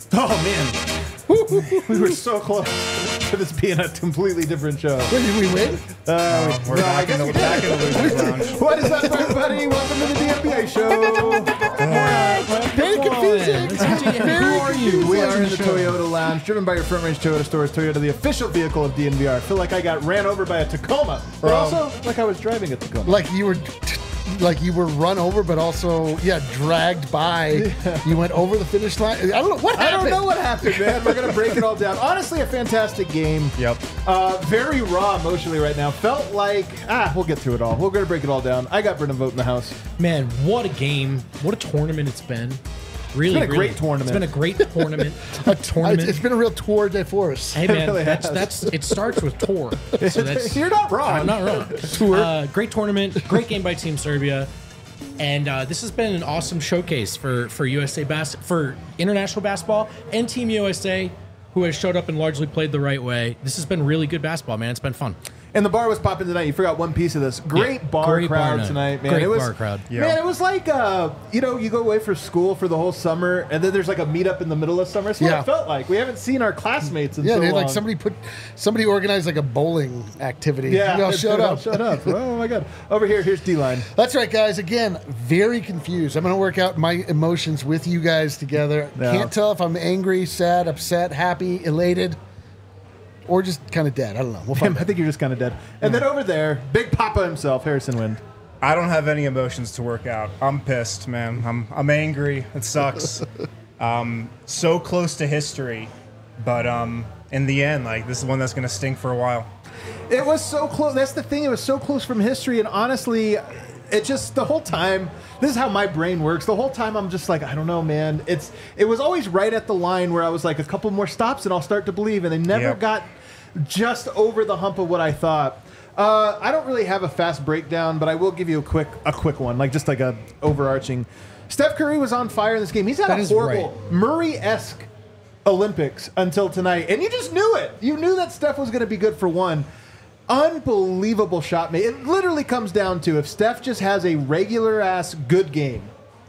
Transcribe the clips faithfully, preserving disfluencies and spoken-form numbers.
Oh, man. We were so close to this being a completely different show. Wait, did we win? Uh, We're no, back, I guess in we the, back in the losers lounge. What is up, everybody? Welcome to the D N B A show. Very confusing. Who are you? We are in the Toyota Lounge, driven by your Front Range Toyota stores. Toyota, the official vehicle of D N V R. I feel like I got ran over by a Tacoma, but also like I was driving a Tacoma. Like you were, like you were run over, but also yeah, dragged by. Yeah. You went over the finish line. I don't know what happened. I don't know what happened, man. We're gonna break it all down. Honestly, a fantastic game. Yep. Uh, very raw emotionally right now. Felt like ah, we'll get through it all. We're gonna break it all down. I got Brendan Vogt in the house. Man, what a game. What a tournament it's been. Really, It's been a really. great tournament. It's been a great tournament. a tournament. It's been a real tour de force. Hey man, really that's has. that's it starts with tour. So that's You're not wrong. I'm not wrong. Tour. Uh, great tournament, great game by Team Serbia, and uh, this has been an awesome showcase for for U S A bas- for international basketball and Team U S A, who has showed up and largely played the right way. This has been really good basketball, man. It's been fun. And the bar was popping tonight. You forgot one piece of this. Great Yeah, bar great bar crowd night. tonight, man. Great it was, bar crowd. Yeah. Man, it was like, uh, you know, you go away for school for the whole summer, and then there's like a meetup in the middle of summer. That's what Yeah. it felt like. We haven't seen our classmates in Yeah, so dude, long. like somebody put, somebody organized like a bowling activity. Yeah, you all it- showed it all up. Shut up. Oh, my God. Over here, here's D-Line. That's right, guys. Again, very confused. I'm going to work out my emotions with you guys together. Yeah. Can't tell if I'm angry, sad, upset, happy, elated, or just kind of dead. I don't know. We'll find I out. think you're just kind of dead. And then over there, Big Papa himself, Harrison Wind. I don't have any emotions to work out. I'm pissed, man. I'm I'm angry. It sucks. um, so close to history, but um, in the end, like this is one that's gonna stink for a while. It was so close. That's the thing. It was so close from history. And honestly, it just, the whole time, this is how my brain works. The whole time I'm just like, I don't know, man. It's It was always right at the line where I was like, a couple more stops and I'll start to believe. And they never Yep. got just over the hump of what I thought. Uh, I don't really have a fast breakdown, but I will give you a quick a quick one, like just like a overarching. Steph Curry was on fire in this game. He's had That a is horrible right. Murray-esque Olympics until tonight, and you just knew it. You knew that Steph was going to be good for one. Unbelievable shot made. It literally comes down to if Steph just has a regular ass good game,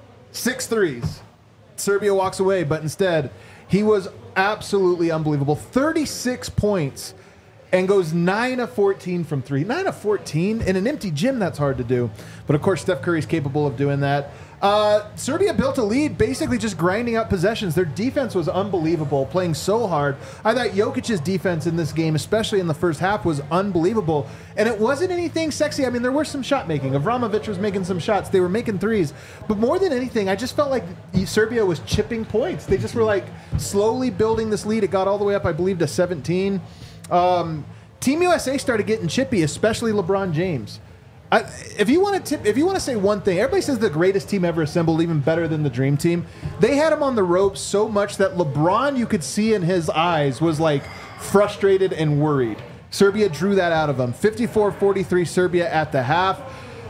six threes, Serbia walks away. But instead, he was absolutely unbelievable. thirty-six points and goes nine of fourteen from three. nine of fourteen in an empty gym, that's hard to do. But of course, Steph Curry's capable of doing that. Uh, Serbia built a lead, basically just grinding out possessions. Their defense was unbelievable, playing so hard. I thought Jokic's defense in this game, especially in the first half, was unbelievable. And it wasn't anything sexy. I mean, there was some shot making. Avramovic was making some shots. They were making threes. But more than anything, I just felt like Serbia was chipping points. They just were like slowly building this lead. It got all the way up, I believe, to seventeen. Um, Team U S A started getting chippy, especially LeBron James. I, if you want to tip, if you want to say one thing, everybody says the greatest team ever assembled, even better than the Dream Team. They had him on the ropes so much that LeBron, you could see in his eyes, was like frustrated and worried. Serbia drew that out of him. fifty-four forty-three Serbia at the half.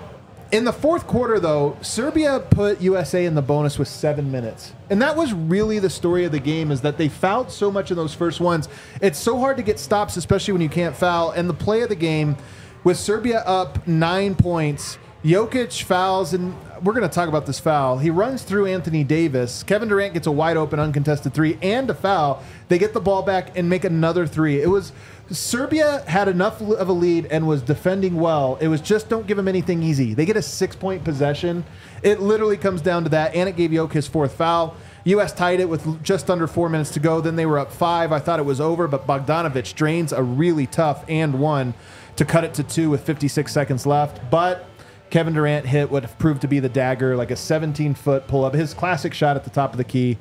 In the fourth quarter, though, Serbia put U S A in the bonus with seven minutes. And that was really the story of the game, is that they fouled so much in those first ones. It's so hard to get stops, especially when you can't foul. And the play of the game, with Serbia up nine points, Jokic fouls, and we're going to talk about this foul. He runs through Anthony Davis. Kevin Durant gets a wide open uncontested three and a foul. They get the ball back and make another three. It was Serbia had enough of a lead and was defending well. It was just don't give them anything easy. They get a six-point possession. It literally comes down to that, and it gave Jokic his fourth foul. U S tied it with just under four minutes to go. Then they were up five. I thought it was over, but Bogdanovic drains a really tough and one to cut it to two with fifty-six seconds left. But Kevin Durant hit what proved to be the dagger, like a seventeen-foot pull-up, his classic shot at the top of the key.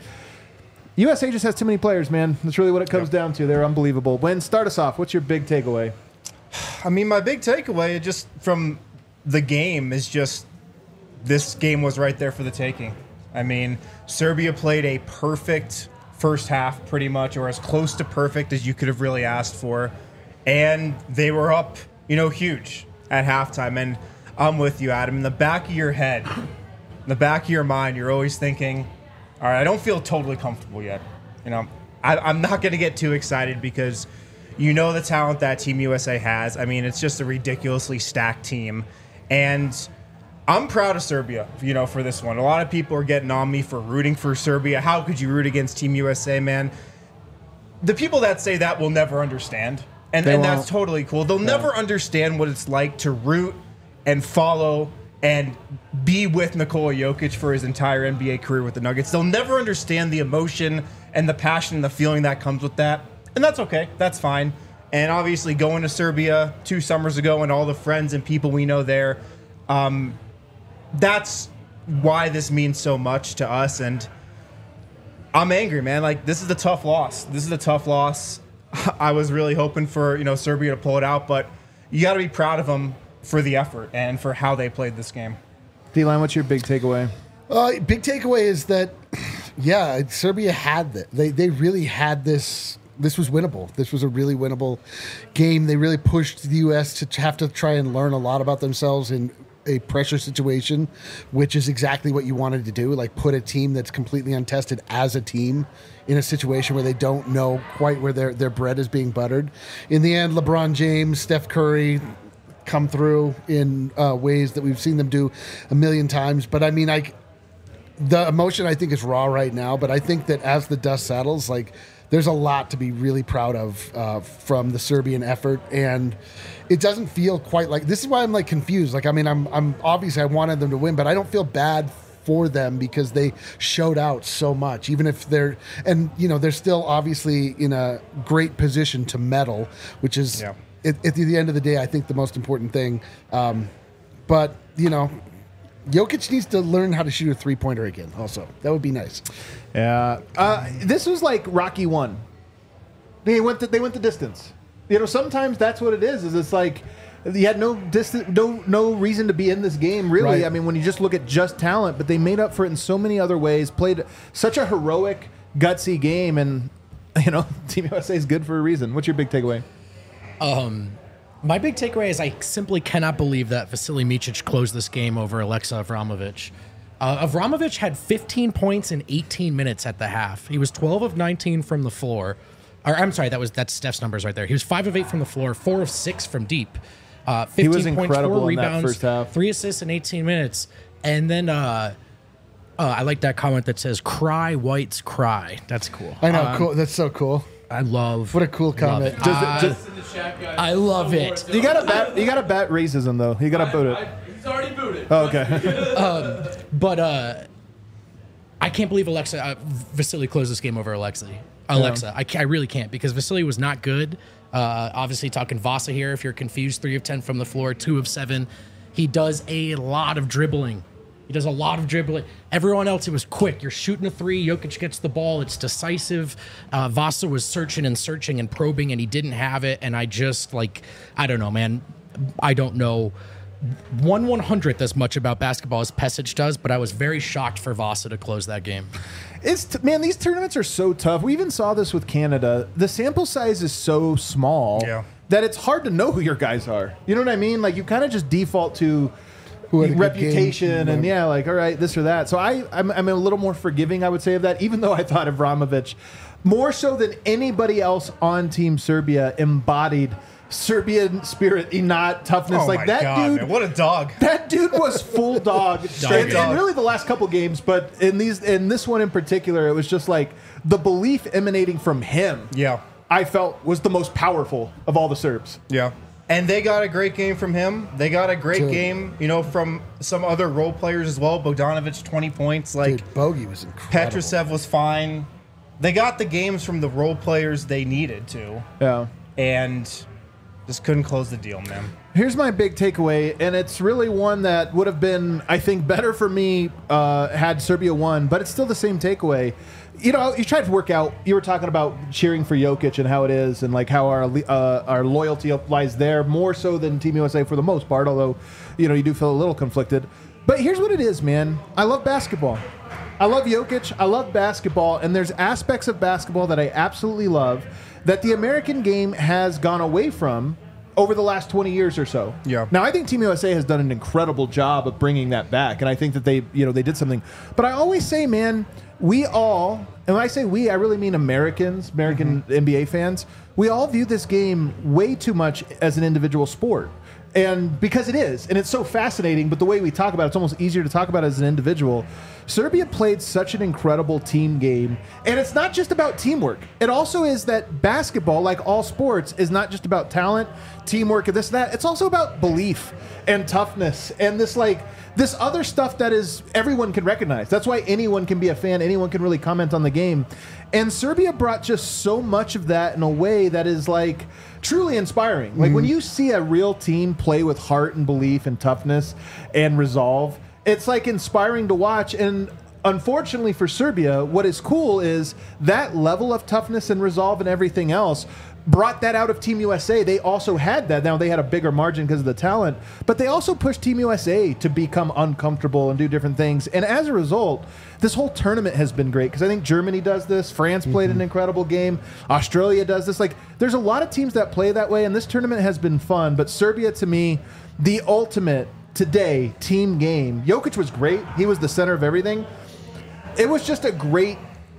U S A just has too many players, man. That's really what it comes down to. They're unbelievable. Win, start us off. What's your big takeaway? I mean, my big takeaway just from the game is just this game was right there for the taking. I mean, Serbia played a perfect first half, pretty much, or as close to perfect as you could have really asked for. And they were up, you know, huge at halftime. And I'm with you, Adam. In the back of your head, in the back of your mind, you're always thinking, all right, I don't feel totally comfortable yet. You know, I, I'm not going to get too excited because you know the talent that Team U S A has. I mean, it's just a ridiculously stacked team. And I'm proud of Serbia, you know, for this one. A lot of people are getting on me for rooting for Serbia. How could you root against Team U S A, man? The people that say that will never understand. And, and that's totally cool. They'll yeah. never understand what it's like to root and follow and be with Nikola Jokic for his entire N B A career with the Nuggets. They'll never understand the emotion and the passion and the feeling that comes with that. And that's okay. That's fine. And obviously going to Serbia two summers ago and all the friends and people we know there, um, that's why this means so much to us. And I'm angry, man. Like, this is a tough loss. This is a tough loss. I was really hoping for, you know, Serbia to pull it out, but you got to be proud of them for the effort and for how they played this game. D-Line, what's your big takeaway? Uh, big takeaway is that, yeah, Serbia had that. They they really had this. This was winnable. This was a really winnable game. They really pushed the U S to have to try and learn a lot about themselves in a pressure situation, which is exactly what you wanted to do. Like, put a team that's completely untested as a team in a situation where they don't know quite where their, their bread is being buttered. In the end, LeBron James, Steph Curry come through in uh, ways that we've seen them do a million times. But I mean, I, the emotion I think is raw right now, but I think that as the dust settles, like, there's a lot to be really proud of uh, from the Serbian effort, and it doesn't feel quite like, this is why I'm like confused. Like, I mean, I'm, I'm obviously I wanted them to win, but I don't feel bad for them because they showed out so much, even if they're, and you know, they're still obviously in a great position to medal, which is yeah. at, at the end of the day, I think the most important thing. Um, but you know, Jokic needs to learn how to shoot a three-pointer again also. That would be nice. Yeah. Uh, this was like Rocky one. They went the, they went the distance. You know, sometimes that's what it is, is it's like you had no distance, no no reason to be in this game, really. Right. I mean, when you just look at just talent, but they made up for it in so many other ways, played such a heroic, gutsy game, and, you know, Team U S A is good for a reason. What's your big takeaway? Um... My big takeaway is I simply cannot believe that Vasily Micic closed this game over Alexa Avramovic. Uh, Avramovic had fifteen points in eighteen minutes at the half. He was twelve of nineteen from the floor. Or I'm sorry, that was that's Steph's numbers right there. He was five of eight from the floor, four of six from deep. Uh, fifteen he was points, incredible four in rebounds, that first half. three assists in eighteen minutes. And then uh, uh, I like that comment that says, "Cry, whites, cry." That's cool. I know, um, cool. That's so cool. I love. What a cool comment. It. Uh, just, I love it. You gotta bat. You gotta bat racism though. You gotta boot it. I, he's already booted. Oh, okay. um, but uh, I can't believe Alexa uh, Vasily closed this game over Alexa. Alexa, yeah. I, I really can't, because Vasily was not good. Uh, obviously, talking Vasa here. If you're confused, three of ten from the floor, two of seven. He does a lot of dribbling. He does a lot of dribbling. Everyone else, it was quick. You're shooting a three. Jokic gets the ball. It's decisive. Uh, Vasa was searching and searching and probing, and he didn't have it. And I just, like, I don't know, man. I don't know one one hundredth as much about basketball as Pesic does, but I was very shocked for Vasa to close that game. It's t- man, these tournaments are so tough. We even saw this with Canada. The sample size is so small yeah. that it's hard to know who your guys are. You know what I mean? Like, you kind of just default to Who had a good reputation game. and yeah, like, all right, this or that. So I, I'm, I'm a little more forgiving, I would say, of that, even though I thought Avramovic, more so than anybody else on Team Serbia, embodied Serbian spirit, not toughness. Oh like my that God, dude, man, what a dog! That dude was full dog. and, dog. and really, the last couple games, but in these, in this one in particular, it was just like the belief emanating from him. Yeah, I felt was the most powerful of all the Serbs. yeah. And they got a great game from him. They got a great Dude. game, you know, from some other role players as well. Bogdanovic, twenty points. Like, Dude, Bogey was incredible. Petrusev was fine. They got the games from the role players they needed to. Yeah. And just couldn't close the deal, man. Here's my big takeaway, and it's really one that would have been, I think, better for me uh, had Serbia won, but it's still the same takeaway. You know, you tried to work out. You were talking about cheering for Jokic and how it is, and like how our uh, our loyalty lies there more so than Team U S A for the most part. Although, you know, you do feel a little conflicted. But here's what it is, man. I love basketball. I love Jokic. I love basketball, and there's aspects of basketball that I absolutely love that the American game has gone away from over the last twenty years or so. Yeah. Now, I think Team U S A has done an incredible job of bringing that back, and I think that they, you know, they did something. But I always say, man, we all, and when I say we, I really mean Americans, American mm-hmm. N B A fans, we all view this game way too much as an individual sport. And because it is, and it's so fascinating, but the way we talk about it, it's almost easier to talk about it as an individual. Serbia played such an incredible team game, and it's not just about teamwork. It also is that basketball, like all sports, is not just about talent, teamwork, and this, that. It's also about belief and toughness and this, like, this other stuff that is everyone can recognize. That's why anyone can be a fan. Anyone can really comment on the game. And Serbia brought just so much of that in a way that is, like, truly inspiring. Like, mm-hmm. when you see a real team play with heart and belief and toughness and resolve, it's, like, inspiring to watch. And unfortunately for Serbia, what is cool is that level of toughness and resolve and everything else brought that out of Team U S A. They also had that. Now, they had a bigger margin because of the talent, but they also pushed Team U S A to become uncomfortable and do different things. And as a result, this whole tournament has been great because I think Germany does this. France played mm-hmm. an incredible game. Australia does this. Like, there's a lot of teams that play that way, and this tournament has been fun. But Serbia, to me, the ultimate today team game. Jokic was great. He was the center of everything. It was just a great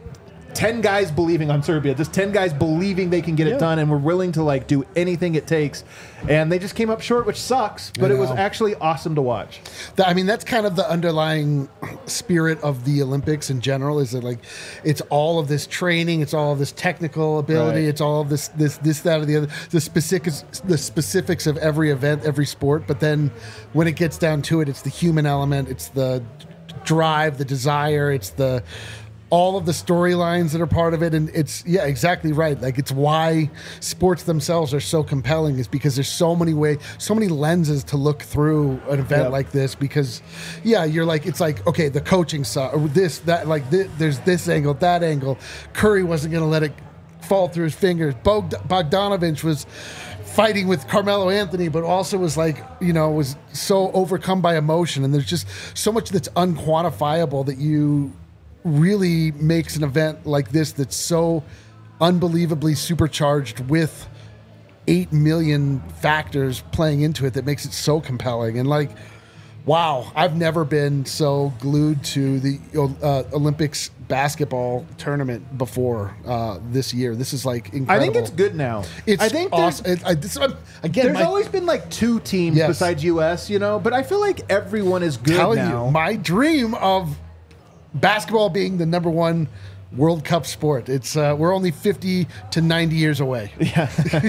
ten guys believing on Serbia, just ten guys believing they can get yeah. it done and were willing to, like, do anything it takes. And they just came up short, which sucks, but it was actually awesome to watch. The, I mean, that's kind of the underlying spirit of the Olympics in general, is that, like, it's all of this training, it's all of this technical ability, right. it's all of this, this, this, that, or the other, the specifics, the specifics of every event, every sport. But then when it gets down to it, it's the human element, it's the drive, the desire, it's the all of the storylines that are part of it. And it's, yeah, exactly right. Like, it's why sports themselves are so compelling, is because there's so many ways, so many lenses to look through an event yep. like this. Because, yeah, you're like, it's like, okay, the coaching side, or this, that, like, this, there's this angle, that angle. Curry wasn't going to let it fall through his fingers. Bogd- Bogdanovich was fighting with Carmelo Anthony, but also was, like, you know, was so overcome by emotion. And there's just so much that's unquantifiable that you really makes an event like this that's so unbelievably supercharged with eight million factors playing into it that makes it so compelling. And, like, wow, I've never been so glued to the uh, Olympics basketball tournament before uh, this year. This is, like, incredible. I think it's good now. It's I think awesome. It, I, this, again, there's my, always been, like, two teams yes. besides U S, you know, but I feel like everyone is good telling now. You, my dream of basketball being the number one World Cup sport. It's uh, we're only fifty to ninety years away. Yeah,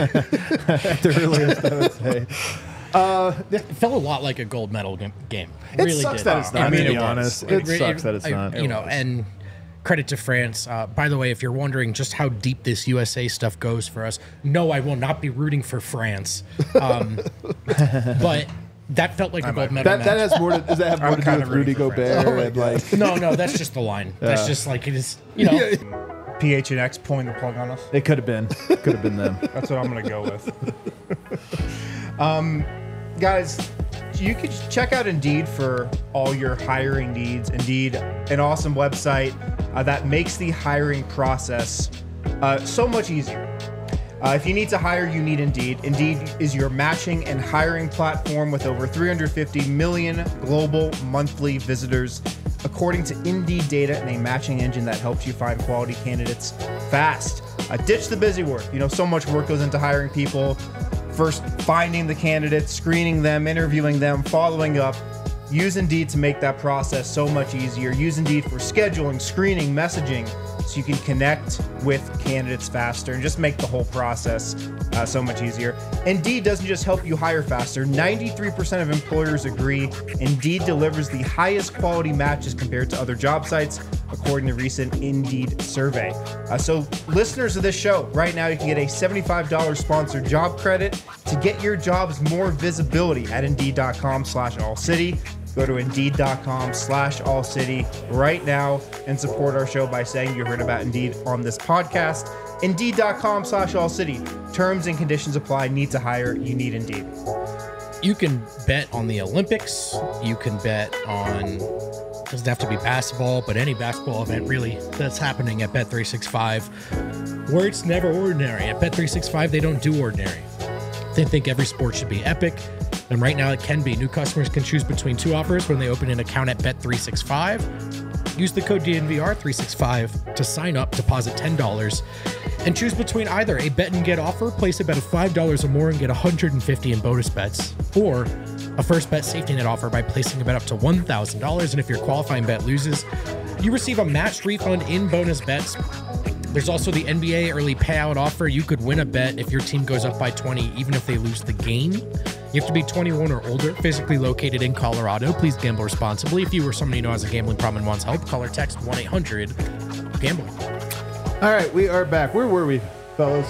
the earliest I would say. Uh, it felt a lot like a gold medal game. It really sucks did. that it's not. I mean, to be honest, it, it sucks it, that it's I, not. You know, and credit to France. Uh, by the way, if you're wondering just how deep this U S A stuff goes for us, no, I will not be rooting for France. Um, but that felt like a gold medal. That, match. that has more to, does that have more to do with Rudy Gobert? Oh and, like, no, no, that's just the line. Yeah. That's just like it is. You know, P H N X pulling the plug on us. It could have been. Could have been them. That's what I'm gonna go with. um, guys, you could check out Indeed for all your hiring needs. Indeed, an awesome website uh, that makes the hiring process uh, so much easier. Uh, if you need to hire, you need Indeed. Indeed is your matching and hiring platform with over three hundred fifty million global monthly visitors, according to Indeed data, and a matching engine that helps you find quality candidates fast. Uh, ditch the busy work. You know, so much work goes into hiring people. First, finding the candidates, screening them, interviewing them, following up. Use Indeed to make that process so much easier. Use Indeed for scheduling, screening, messaging, so you can connect with candidates faster and just make the whole process uh, so much easier. Indeed doesn't just help you hire faster. ninety-three percent of employers agree Indeed delivers the highest quality matches compared to other job sites, according to a recent Indeed survey. Uh, so listeners of this show, right now you can get a seventy-five dollars sponsored job credit to get your jobs more visibility at Indeed.com slash All City. Go to Indeed.com slash All City right now and support our show by saying you heard about Indeed on this podcast. Indeed.com slash All City. Terms and conditions apply. Need to hire. You need Indeed. You can bet on the Olympics. You can bet on, doesn't have to be basketball, but any basketball event really that's happening at Bet three sixty-five, where it's never ordinary. At Bet three sixty-five, they don't do ordinary. They think every sport should be epic. And right now it can be. New customers can choose between two offers when they open an account at Bet three sixty-five. Use the code D N V R three sixty-five to sign up, deposit ten dollars, and choose between either a bet and get offer, place a bet of five dollars or more and get one hundred fifty in bonus bets, or a first bet safety net offer by placing a bet up to one thousand dollars. And if your qualifying bet loses, you receive a matched refund in bonus bets. There's also the N B A early payout offer. You could win a bet if your team goes up by twenty, even if they lose the game. You have to be twenty-one or older, physically located in Colorado. Please gamble responsibly. If you or somebody you know has a gambling problem and wants help, call or text one eight hundred gamble. All right, we are back. Where were we, fellas?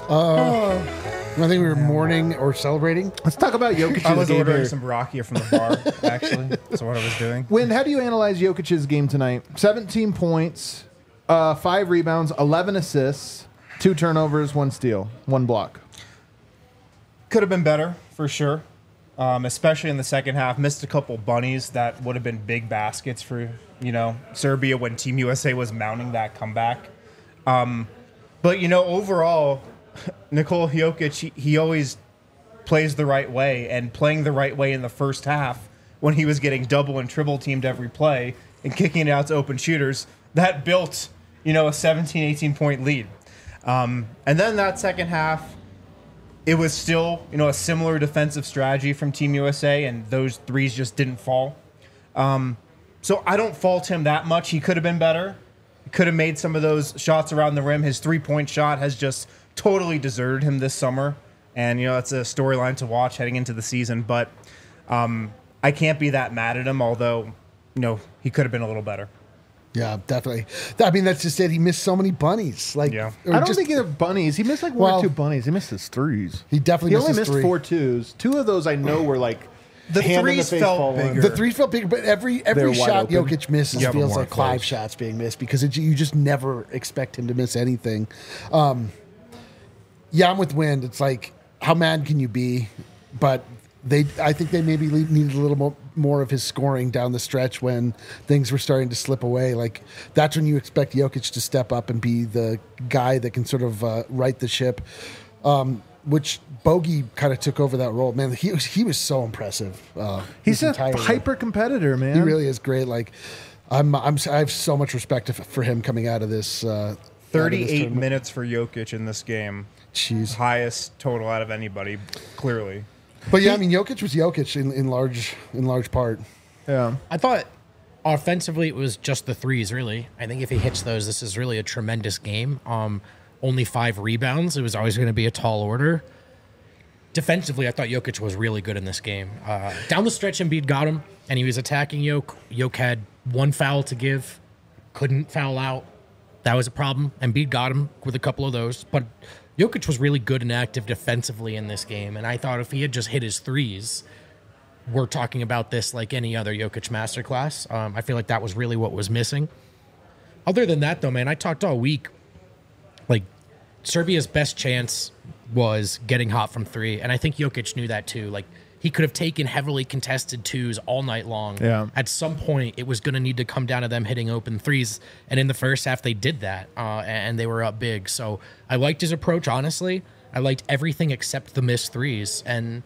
Uh, I think we were mourning or celebrating. Let's talk about Jokic's I was game ordering here. some rakia from the bar, actually. That's what I was doing. Win, how do you analyze Jokic's game tonight? seventeen points, uh, five rebounds, eleven assists, two turnovers, one steal, one block. Could have been better, for sure. Um, especially in the second half. Missed a couple bunnies that would have been big baskets for, you know, Serbia when Team U S A was mounting that comeback. Um, but, you know, overall, Nikola Jokic, he, he always plays the right way, and playing the right way in the first half when he was getting double and triple teamed every play and kicking it out to open shooters, that built, you know, a seventeen, eighteen point lead. Um, and then that second half, it was still, you know, a similar defensive strategy from Team U S A, and those threes just didn't fall. Um, so I don't fault him that much. He could have been better. He could have made some of those shots around the rim. His three-point shot has just totally deserted him this summer, and, you know, it's a storyline to watch heading into the season. But um, I can't be that mad at him, although, you know, he could have been a little better. Yeah, definitely. I mean, that's just it. He missed so many bunnies. Like, Yeah. or I don't just- think either bunnies. He missed like one Well, or two bunnies. He missed his threes. He definitely He missed only his missed three. four twos. Two of those I know were like The hand in threes face felt fall in. bigger. The three felt bigger, but every every They're shot wide open. Jokic misses Yeah, but feels more like close. five shots being missed because it, you just never expect him to miss anything. Um, yeah, I'm with Wind. It's like, how mad can you be? But they, I think they maybe le- needed a little more, more of his scoring down the stretch when things were starting to slip away. Like, that's when you expect Jokic to step up and be the guy that can sort of uh, right the ship. Um, which Bogey kind of took over that role. Man, he was he was so impressive. Uh, He's this a entire year. hyper competitor, man. He really is great. Like, I'm, I'm, I have so much respect f- for him coming out of this. Uh, out of this thirty-eight tournament. minutes for Jokic in this game. Jeez. Highest total out of anybody, clearly. But yeah, I mean, Jokic was Jokic in, in large in large part. Yeah. I thought offensively it was just the threes, really. I think if he hits those, this is really a tremendous game. Um, only five rebounds. It was always going to be a tall order. Defensively, I thought Jokic was really good in this game. Uh, down the stretch, Embiid got him, and he was attacking Jokic. Jokic had one foul to give, couldn't foul out. That was a problem. Embiid got him with a couple of those. But Jokic was really good and active defensively in this game, and I thought if he had just hit his threes, we're talking about this like any other Jokic masterclass. Um, I feel like that was really what was missing. Other than that, though, man, I talked all week. Like, Serbia's best chance was getting hot from three, and I think Jokic knew that too. Like, he could have taken heavily contested twos all night long. Yeah. At some point, it was going to need to come down to them hitting open threes, and in the first half, they did that, uh, and they were up big. So I liked his approach, honestly. I liked everything except the missed threes, and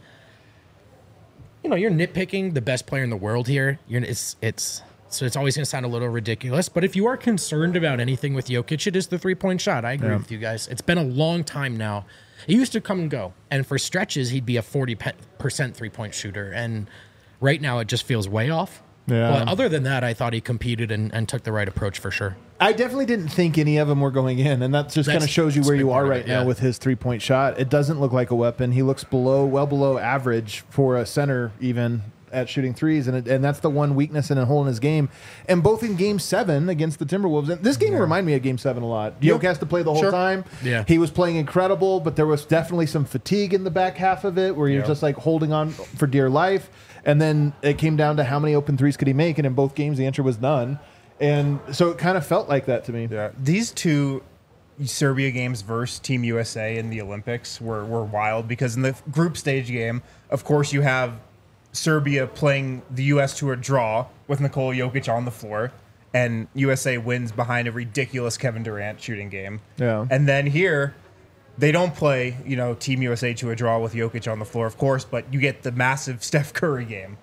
you know, you're nitpicking the best player in the world here. You're it's it's so it's always going to sound a little ridiculous. But if you are concerned about anything with Jokic, it is the three point shot. I agree Yeah. with you guys. It's been a long time now. It used to come and go, and for stretches, he'd be a forty percent three point shooter. And right now, it just feels way off. Yeah. But other than that, I thought he competed and, and took the right approach for sure. I definitely didn't think any of them were going in, and that just That's- kind of shows you that's where a big you are part of right it, now yeah. with his three-point shot. It doesn't look like a weapon. He looks below, well below average for a center, even at shooting threes, and it, and that's the one weakness and a hole in his game. And both in Game Seven against the Timberwolves, and this game reminded me of Game Seven a lot. Jokic has to play the whole Sure. time. Yeah. He was playing incredible, but there was definitely some fatigue in the back half of it, where you're Yeah. just like holding on for dear life. And then it came down to how many open threes could he make, and in both games the answer was none. And so it kind of felt like that to me. Yeah, these two Serbia games versus Team U S A in the Olympics were, were wild because in the group stage game, of course, you have Serbia playing the U S to a draw with Nikola Jokic on the floor, and U S A wins behind a ridiculous Kevin Durant shooting game. Yeah. And then here, they don't play, you know, Team U S A to a draw with Jokic on the floor, of course, but you get the massive Steph Curry game.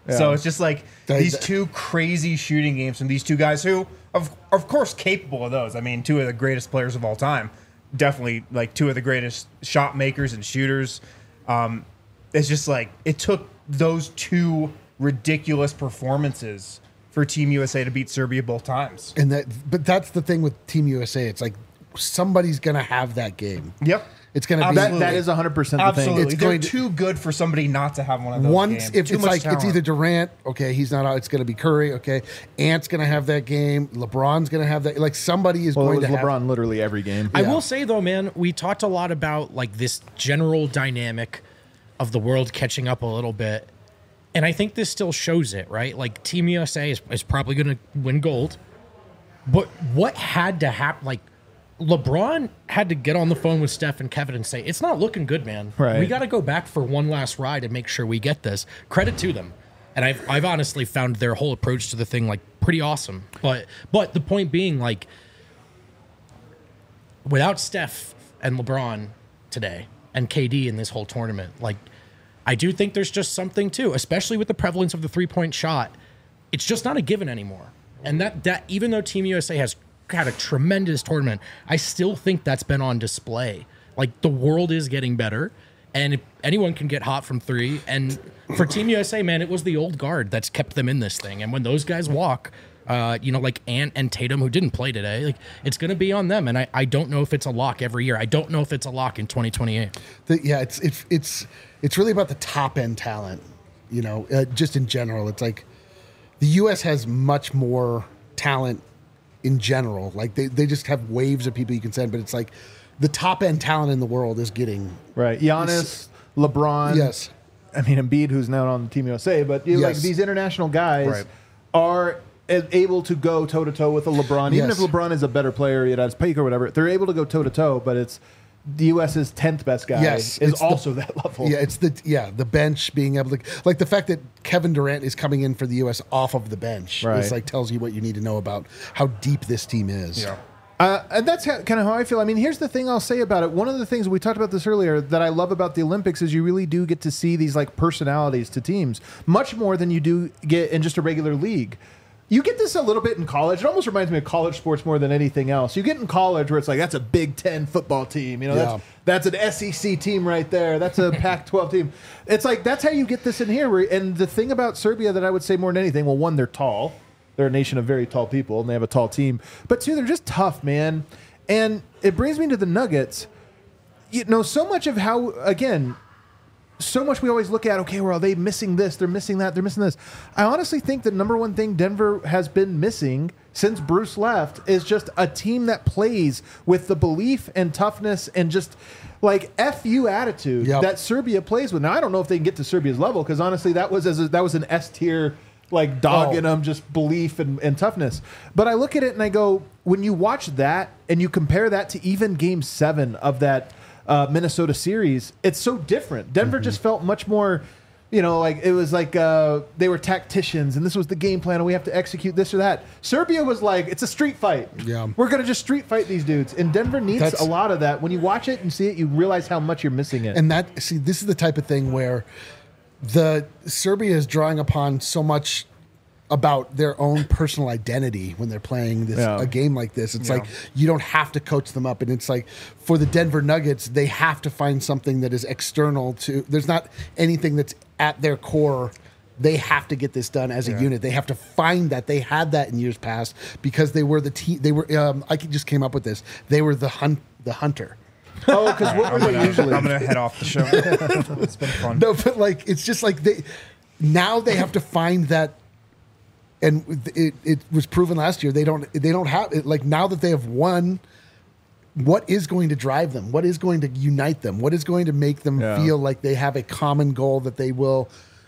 So it's just like They- these they- two crazy shooting games from these two guys who, of of course, capable of those. I mean, two of the greatest players of all time. Definitely, like two of the greatest shot makers and shooters. Um, it's just like it took those two ridiculous performances for Team U S A to beat Serbia both times. And that, but that's the thing with Team U S A. It's like somebody's gonna have that game. Yep. It's gonna be Absolutely. That, that is one hundred percent the Absolutely. thing. It's They're going to- too good for somebody not to have one of those once games. if Too it's much like talent. it's either Durant, okay, he's not out. It's gonna be Curry, okay. Ant's gonna have that game. LeBron's gonna have that. Like somebody is Well, it going was to LeBron have. literally every game. I Yeah. will say though, man, we talked a lot about like this general dynamic of the world catching up a little bit. And I think this still shows it, right? Like Team U S A is, is probably going to win gold. But what had to happen? Like LeBron had to get on the phone with Steph and Kevin and say, it's not looking good, man. Right. We got to go back for one last ride and make sure we get this. Credit to them. And I've, I've honestly found their whole approach to the thing like pretty awesome. But but the point being, like, without Steph and LeBron today and K D in this whole tournament, like, I do think there's just something too, especially with the prevalence of the three-point shot. It's just not a given anymore. And that that even though Team U S A has had a tremendous tournament, I still think that's been on display. Like the world is getting better, and anyone can get hot from three. And for Team U S A, man, it was the old guard that's kept them in this thing. And when those guys walk, uh, you know, like Ant and Tatum, who didn't play today, like it's going to be on them. And I, I don't know if it's a lock every year. I don't know if it's a lock in twenty twenty-eight. The, yeah, it's it's it's it's really about the top end talent. You know, uh, just in general, it's like the U S has much more talent in general. Like they, they just have waves of people you can send, but it's like the top end talent in the world is getting Right. Giannis, LeBron. yes. I mean, Embiid, who's now on Team U S A, but you know, like Yes. these international guys Right. are a- able to go toe to toe with a LeBron. Even Yes. if LeBron is a better player, at his peak or whatever, they're able to go toe to toe. But it's the US's tenth best guy Yes, is it's the- also that level. Yeah, it's the yeah the bench being able to like the fact that Kevin Durant is coming in for the U S off of the bench. Right. It's like tells you what you need to know about how deep this team is. Yeah. Uh, and that's how, kind of how I feel. I mean, here's the thing I'll say about it. One of the things we talked about this earlier that I love about the Olympics is you really do get to see these like personalities to teams much more than you do get in just a regular league. You get this a little bit in college. It almost reminds me of college sports more than anything else. You get in college where it's like that's a Big Ten football team. You know, Yeah. that's that's an S E C team right there. That's a Pac twelve team. It's like that's how you get this in here. Where, and the thing about Serbia that I would say more than anything, well, one, they're tall. They're a nation of very tall people, and they have a tall team. But two, they're just tough, man. And it brings me to the Nuggets. You know, so much of how, again, so much we always look at, okay, well, are they missing this? They're missing that. They're missing this. I honestly think the number one thing Denver has been missing since Bruce left is just a team that plays with the belief and toughness and just like F U attitude Yep. that Serbia plays with. Now, I don't know if they can get to Serbia's level because honestly, that was as a, that was an S tier like dog Oh. in them, just belief and, and toughness. But I look at it and I go, when you watch that and you compare that to even game seven of that uh, Minnesota series, it's so different. Denver just felt much more, you know, like it was like uh, they were tacticians and this was the game plan and we have to execute this or that. Serbia was like, it's a street fight. Yeah. We're going to just street fight these dudes. And Denver needs That's- a lot of that. When you watch it and see it, you realize how much you're missing it. And that see, this is the type of thing where the Serbia is drawing upon so much about their own personal identity when they're playing this Yeah. a game like this. It's Yeah. like you don't have to coach them up, and it's like for the Denver Nuggets, they have to find something that is external to. There's not anything that's at their core. They have to get this done as a unit. They have to find that. They had that in years past because they were the team. They were. Um, I just came up with this. They were the hunt. The hunter. oh, because what I'm were they gonna, usually? I'm gonna head off the show. It's been fun. No, but like it's just like they now they have to find that, and it, it was proven last year they don't they don't have it. Like now that they have won, what is going to drive them? What is going to unite them? What is going to make them Yeah. feel like they have a common goal that they will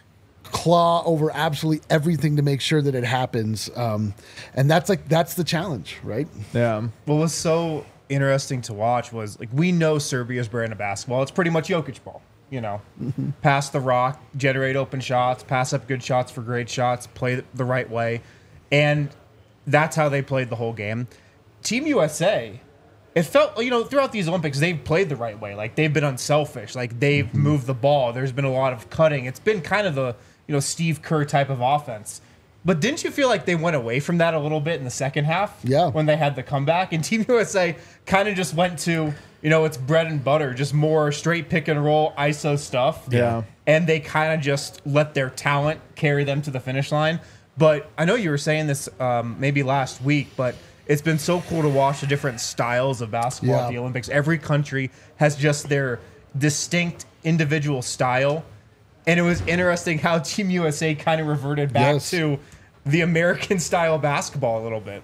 claw over absolutely everything to make sure that it happens? Um, and that's like that's the challenge, right? Yeah. What was so interesting to watch was like we know Serbia's brand of basketball. It's pretty much Jokic ball. You know, pass the rock, generate open shots, pass up good shots for great shots, play the right way, and that's how they played the whole game. Team U S A, it felt you know throughout these Olympics they've played the right way. Like they've been unselfish. Like they've moved the ball. There's been a lot of cutting. It's been kind of the you know, Steve Kerr type of offense. But didn't you feel like they went away from that a little bit in the second half? Yeah. When they had the comeback, and Team U S A kind of just went to, you know, it's bread and butter, just more straight pick and roll I S O stuff. Yeah. And they kind of just let their talent carry them to the finish line. But I know you were saying this um, maybe last week, but it's been so cool to watch the different styles of basketball Yeah. at the Olympics. Every country has just their distinct individual style. And it was interesting how Team U S A kind of reverted back Yes. to the American style basketball a little bit.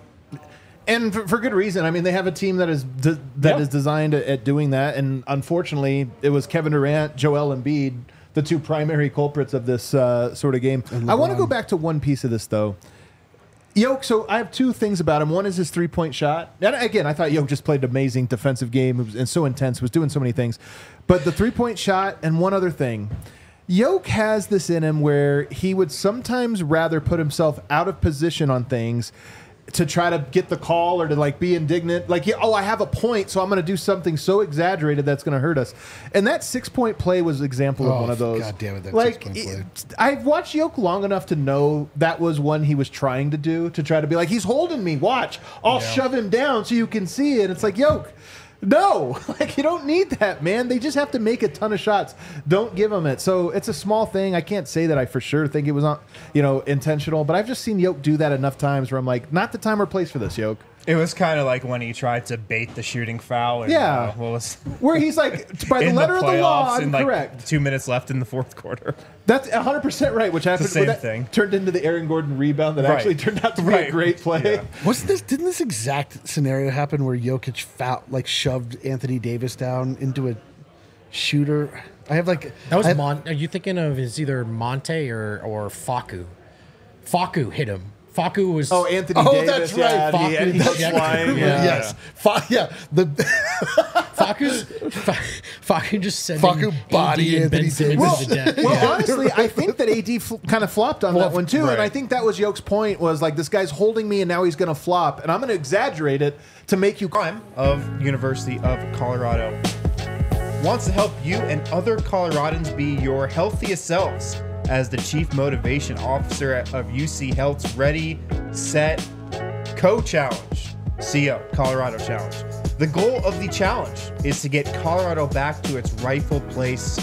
And for, for good reason. I mean, they have a team that is de- that Yeah. is designed at, at doing that. And unfortunately, it was Kevin Durant, Joel Embiid, the two primary culprits of this uh, sort of game. I want to go back to one piece of this, though. Yoke, so I have two things about him. One is his three-point shot. And again, I thought Yoke just played an amazing defensive game. It was, and so intense, was doing so many things. But the three-point shot and one other thing. Yoke has this in him where he would sometimes rather put himself out of position on things to try to get the call or to like be indignant. Like, yeah, oh, I have a point, so I'm going to do something so exaggerated that's going to hurt us. And that six-point play was an example of Oh, one of those. God damn it, that like, six-point play. it- I've watched Yoke long enough to know that was one he was trying to do, to try to be like, he's holding me, watch. I'll shove him down so you can see it. It's like, Yoke, no. Like, you don't need that, man. They just have to make a ton of shots. Don't give them it. So it's a small thing. I can't say that I for sure think it was, not, you know, intentional, but I've just seen Yoke do that enough times where I'm like, not the time or place for this, Yoke. It was kind of like when he tried to bait the shooting foul. And, Yeah. uh, what was Where he's like, by the in letter the of the law, playoffs I'm and like correct. two minutes left in the fourth quarter. That's one hundred percent right, which happened. the same that thing. Turned into the Aaron Gordon rebound that Right. actually turned out to be Right. a great play. Yeah. Wasn't this? Didn't this exact scenario happen where Jokic foul, like shoved Anthony Davis down into a shooter? I have like That was I, Mon. Are you thinking of is either Monte or or Faku? Faku hit him. Faku was. Oh, Anthony Oh, Davis. that's right. Yeah, and he, and he Faku goes ejected. flying. Yeah. Yeah. Yes, Fa- yeah. The Faku's Fa- Faku just sending Faku body A D and Ben Anthony Simmons Well, to the death. well honestly, I think that A D fl- kind of flopped on that one too, right. and I think that was Yoke's point. Was like, this guy's holding me, and now he's going to flop, and I'm going to exaggerate it to make you. Prime of University of Colorado wants to help you and other Coloradans be your healthiest selves as the Chief Motivation Officer of U C Health's Ready, Set, Co-Challenge, C O, Colorado Challenge. The goal of the challenge is to get Colorado back to its rightful place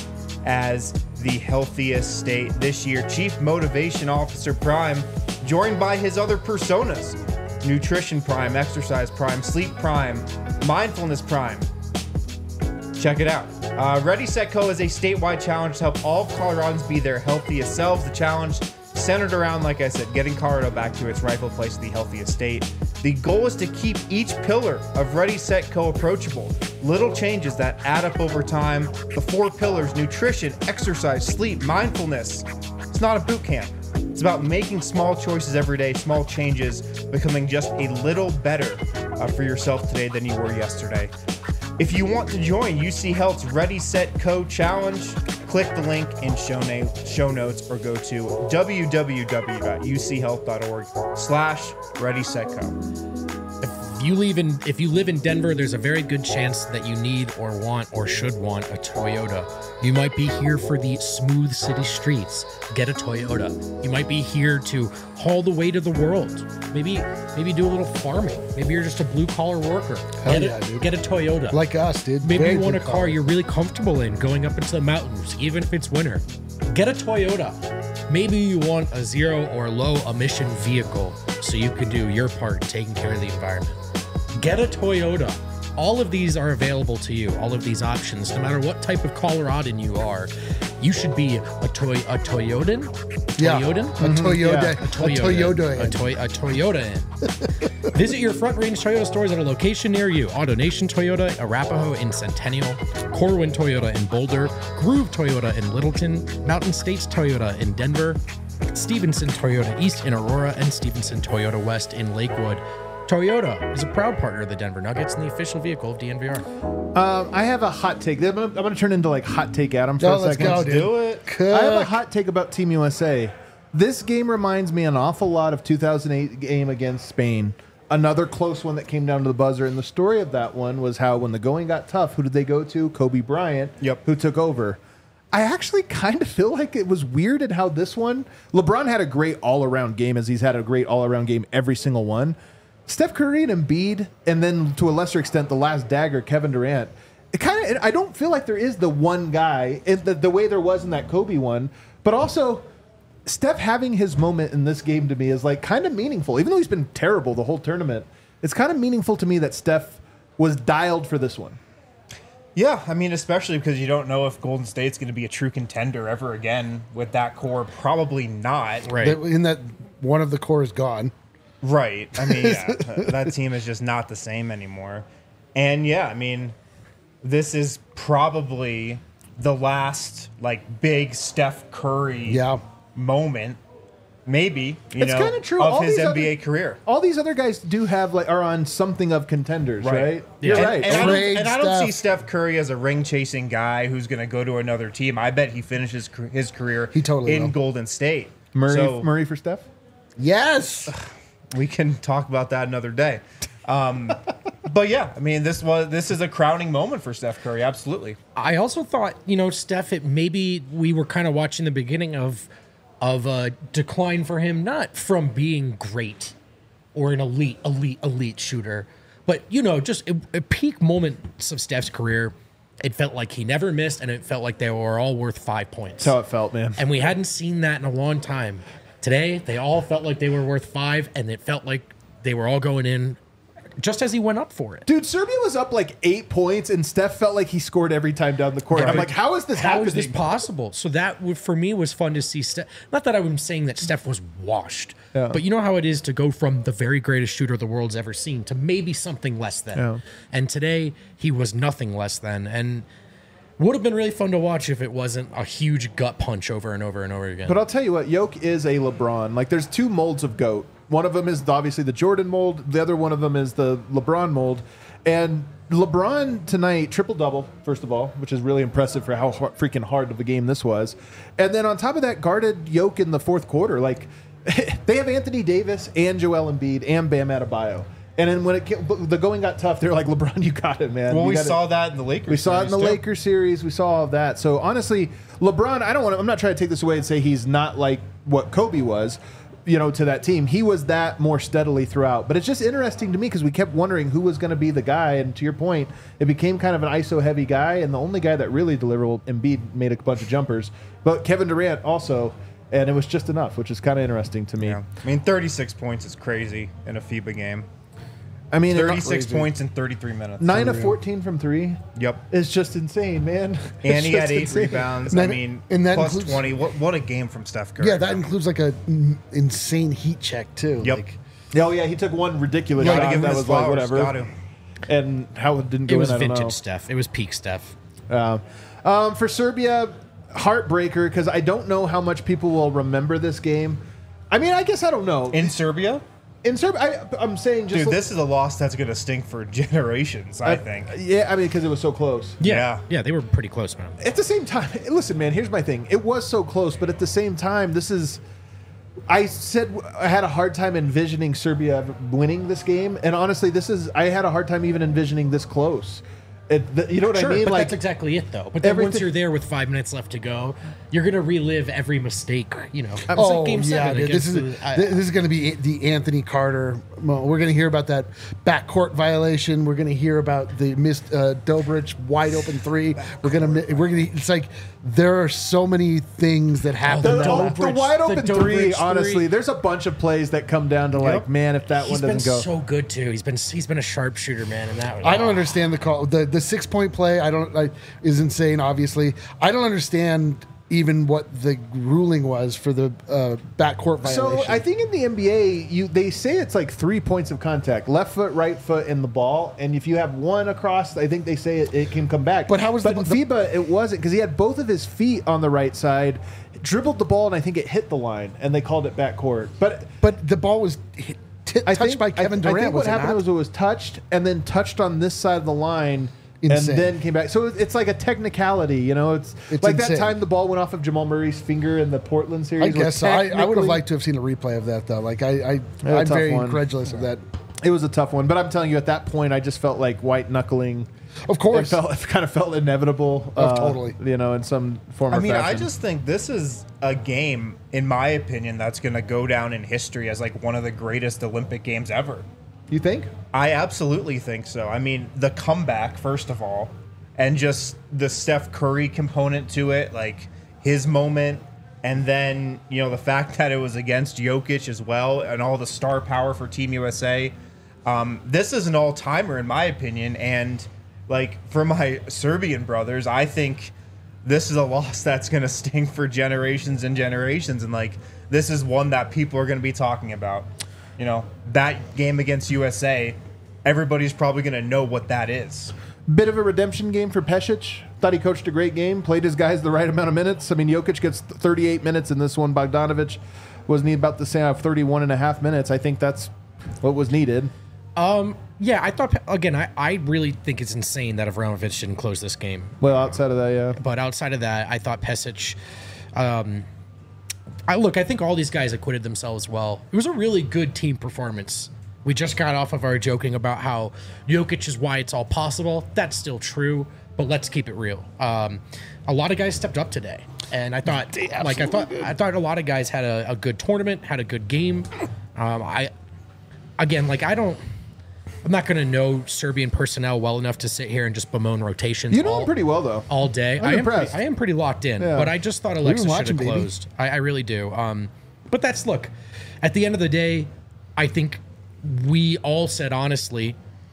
as the healthiest state this year. Chief Motivation Officer Prime, joined by his other personas, Nutrition Prime, Exercise Prime, Sleep Prime, Mindfulness Prime. Check it out. Uh, Ready, Set, Co is a statewide challenge to help all Coloradans be their healthiest selves. The challenge centered around, like I said, getting Colorado back to its rightful place in the healthiest state. The goal is to keep each pillar of Ready, Set, Co approachable. Little changes that add up over time. The four pillars: nutrition, exercise, sleep, mindfulness. It's not a boot camp. It's about making small choices every day, small changes, becoming just a little better uh, for yourself today than you were yesterday. If you want to join U C Health's Ready, Set, Co challenge, click the link in show, na- show notes or go to w w w dot u c health dot org slash ready set co. If you live in if you live in Denver, there's a very good chance that you need or want or should want a Toyota. You might be here for the smooth city streets. Get a Toyota. You might be here to haul the weight of the world. Maybe maybe do a little farming. Maybe you're just a blue collar worker. Hell get, yeah, a, dude. get a Toyota. like us, dude. Maybe Very you want a blue car collar. you're really comfortable in going up into the mountains, even if it's winter. Get a Toyota. Maybe you want a zero or low emission vehicle so you can do your part in taking care of the environment. Get a Toyota. All of these are available to you, all of these options, no matter what type of Coloradan you are. You should be a toy a Toyotan? Yeah. Toyotan? A Toyota. Yeah. A Toyota. A, toy, a Toyota in. Visit your Front Range Toyota stores at a location near you. AutoNation Toyota, Arapahoe in Centennial, Corwin Toyota in Boulder, Groove Toyota in Littleton, Mountain States Toyota in Denver, Stevenson Toyota East in Aurora, and Stevenson Toyota West in Lakewood. Toyota is a proud partner of the Denver Nuggets and the official vehicle of D N V R. Um, I have a hot take. I'm gonna, I'm gonna turn into like hot take Adam for Oh, a let's second. go, dude. Do it. I have a Cook. hot take about Team U S A. This game reminds me an awful lot of two thousand eight game against Spain. Another close one that came down to the buzzer. And the story of that one was how when the going got tough, who did they go to? Kobe Bryant, Yep. who took over. I actually kind of feel like it was weird in how this one, LeBron had a great all-around game, as he's had a great all-around game every single one. Steph Curry and Embiid, and then to a lesser extent, the last dagger, Kevin Durant. It kind of, I don't feel like there is the one guy in the, the way there was in that Kobe one, but also Steph having his moment in this game to me is like kind of meaningful. Even though he's been terrible the whole tournament, it's kind of meaningful to me that Steph was dialed for this one. Yeah, I mean, especially because you don't know if Golden State's going to be a true contender ever again with that core. Probably not. Right. That- In that one of the core is gone. Right. I mean, yeah, that team is just not the same anymore. And yeah, I mean, this is probably the last like big Steph Curry Yeah. moment, maybe, you It's know, kinda true. of All his these N B A other- career. All these other guys do have like are on something of contenders, right? You're And- right. And, I don't, Trade and I don't stuff. see Steph Curry as a ring chasing guy who's going to go to another team. I bet he finishes car- his career He totally in will. Golden State. Murray, So Murray for Steph. Yes. we can talk about that another day. Um, but yeah, I mean, this was this is a crowning moment for Steph Curry. Absolutely. I also thought, you know, Steph, it maybe we were kind of watching the beginning of of a decline for him, not from being great or an elite, elite, elite shooter, but you know, just a, a peak moments of Steph's career. It felt like he never missed, and it felt like they were all worth five points. That's how it felt, man. And we hadn't seen that in a long time. Today, they all felt like they were worth five, and it felt like they were all going in just as he went up for it. Dude, Serbia was up like eight points, and Steph felt like he scored every time down the court. I'm like, how is this How happening? is this possible? So that would, for me was fun to see. Steph. Not that I'm saying that Steph was washed, Yeah. but you know how it is to go from the very greatest shooter the world's ever seen to maybe something less than. Yeah. And today he was nothing less than, and would have been really fun to watch if it wasn't a huge gut punch over and over and over again. But I'll tell you what, Jokic is a LeBron. Like, there's two molds of GOAT. One of them is obviously the Jordan mold. The other one of them is the LeBron mold. And LeBron tonight, triple-double, first of all, which is really impressive for how hard, freaking hard of a game this was. And then on top of that, guarded Jokic in the fourth quarter. Like, they have Anthony Davis and Joel Embiid and Bam Adebayo. And then when it came, the going got tough, they're like, LeBron, you got it, man. Well, You we got saw it. that in the Lakers. We saw it in the series, too. Lakers series. We saw all of that. So honestly, LeBron, I don't want to, I'm not trying to take this away and say he's not like what Kobe was, you know, to that team. He was that more steadily throughout. But it's just interesting to me because we kept wondering who was going to be the guy. And to your point, it became kind of an I S O heavy guy. And the only guy that really delivered, well, Embiid made a bunch of jumpers, but Kevin Durant also. And it was just enough, which is kind of interesting to me. Yeah. I mean, thirty-six points is crazy in a FIBA game. I mean, thirty-six crazy. points in thirty-three minutes. nine of fourteen from three. Yep. It's just insane, man. And It's he had just eight insane. rebounds. And I that- mean, and that plus includes- twenty. What what a game from Steph Curry. Yeah, that includes like a mm, insane heat check too. Yep. Like, Oh yeah, he took one ridiculous Gotta shot give him that his was like flowers. whatever, Got to. and how it didn't go it was in, I don't vintage know. Steph. It was peak Steph. Um, um, for Serbia, heartbreaker because I don't know how much people will remember this game. I mean, I guess I don't know. In Serbia? In Serbia, I, I'm saying just Dude, this is a loss that's going to stink for generations, I think. Yeah, I mean, because it was so close. Yeah, Yeah. yeah, they were pretty close, man. At the same time, listen, man. Here's my thing. It was so close, but at the same time, this is. I said I had a hard time envisioning Serbia winning this game, and honestly, this is. I had a hard time even envisioning this close. It, the, you know what Sure, I mean? but Like that's exactly it, though. But then once everything- you're there with five minutes left to go, you're gonna relive every mistake. You know, it's oh like Game yeah, Seven. dude, this against is the, I- this is going to be the Anthony Carter. Well, we're going to hear about that backcourt violation. We're going to hear about the missed uh, Dobrich wide open three. We're gonna mi- we're gonna. It's like there are so many things that happen. the, the that the, will- Dobrich- wide the open Dobrich three, three. honestly, there's a bunch of plays that come down to like, man, if that he's one been doesn't go. so good too. He's been he's been a sharpshooter, man, and that was, I don't understand the call. The the six point play. I don't. I, is insane. Obviously, I don't understand even what the ruling was for the uh, backcourt violation. So I think in the N B A, you they say it's like three points of contact: left foot, right foot, and the ball. And if you have one across, I think they say it, it can come back. But how was but the- in FIBA? It wasn't because he had both of his feet on the right side, dribbled the ball, and I think it hit the line, and they called it backcourt. But but the ball was hit, t- I touched think, by Kevin I, Durant. I think was what it happened not? was it was touched and then touched on this side of the line. Insane. And then came back. So it's like a technicality, you know. It's, It's like insane. that time the ball went off of Jamal Murray's finger in the Portland series. I where guess so. I, I would have technically- liked to have seen a replay of that though. Like I, I Yeah, I'm tough very one. incredulous of that. It was a tough one, but I'm telling you, at that point, I just felt like white knuckling. Of It course. felt, it kind of felt inevitable. Oh, uh, totally. You know, in some form. I or mean, I fashion. just think this is a game, in my opinion, that's going to go down in history as like one of the greatest Olympic games ever. You think? I absolutely think so. I mean, the comeback, first of all, and just the Steph Curry component to it, like his moment, and then, you know, the fact that it was against Jokic as well, and all the star power for Team U S A. Um, this is an all-timer, in my opinion, and like for my Serbian brothers, I think this is a loss that's going to sting for generations and generations, and like this is one that people are going to be talking about. You know, that game against U S A, everybody's probably going to know what that is. Bit of a redemption game for Pesic. Thought he coached a great game, played his guys the right amount of minutes. I mean, Jokic gets thirty-eight minutes in this one. Bogdanovic was need about the same, uh, thirty-one and a half minutes. I think that's what was needed. Um, yeah, I thought again. I, I really think it's insane that Avramovic didn't close this game. Well, outside of that, yeah. But outside of that, I thought Pesic. Um, I look. I think all these guys acquitted themselves well. It was a really good team performance. We just got off of our joking about how Jokic is why it's all possible. That's still true, but let's keep it real. Um, a lot of guys stepped up today, and I thought, like I thought, I thought a lot of guys had a, a good tournament, had a good game. Um, I, again, like I don't. I'm not going to know Serbian personnel well enough to sit here and just bemoan rotations. You know all, him pretty well, though. all day. I'm I am impressed. Pretty, I am pretty locked in, Yeah. but I just thought Alexa should watching, have baby. closed. I, I really do. Um, but that's look. At the end of the day, I think we all said honestly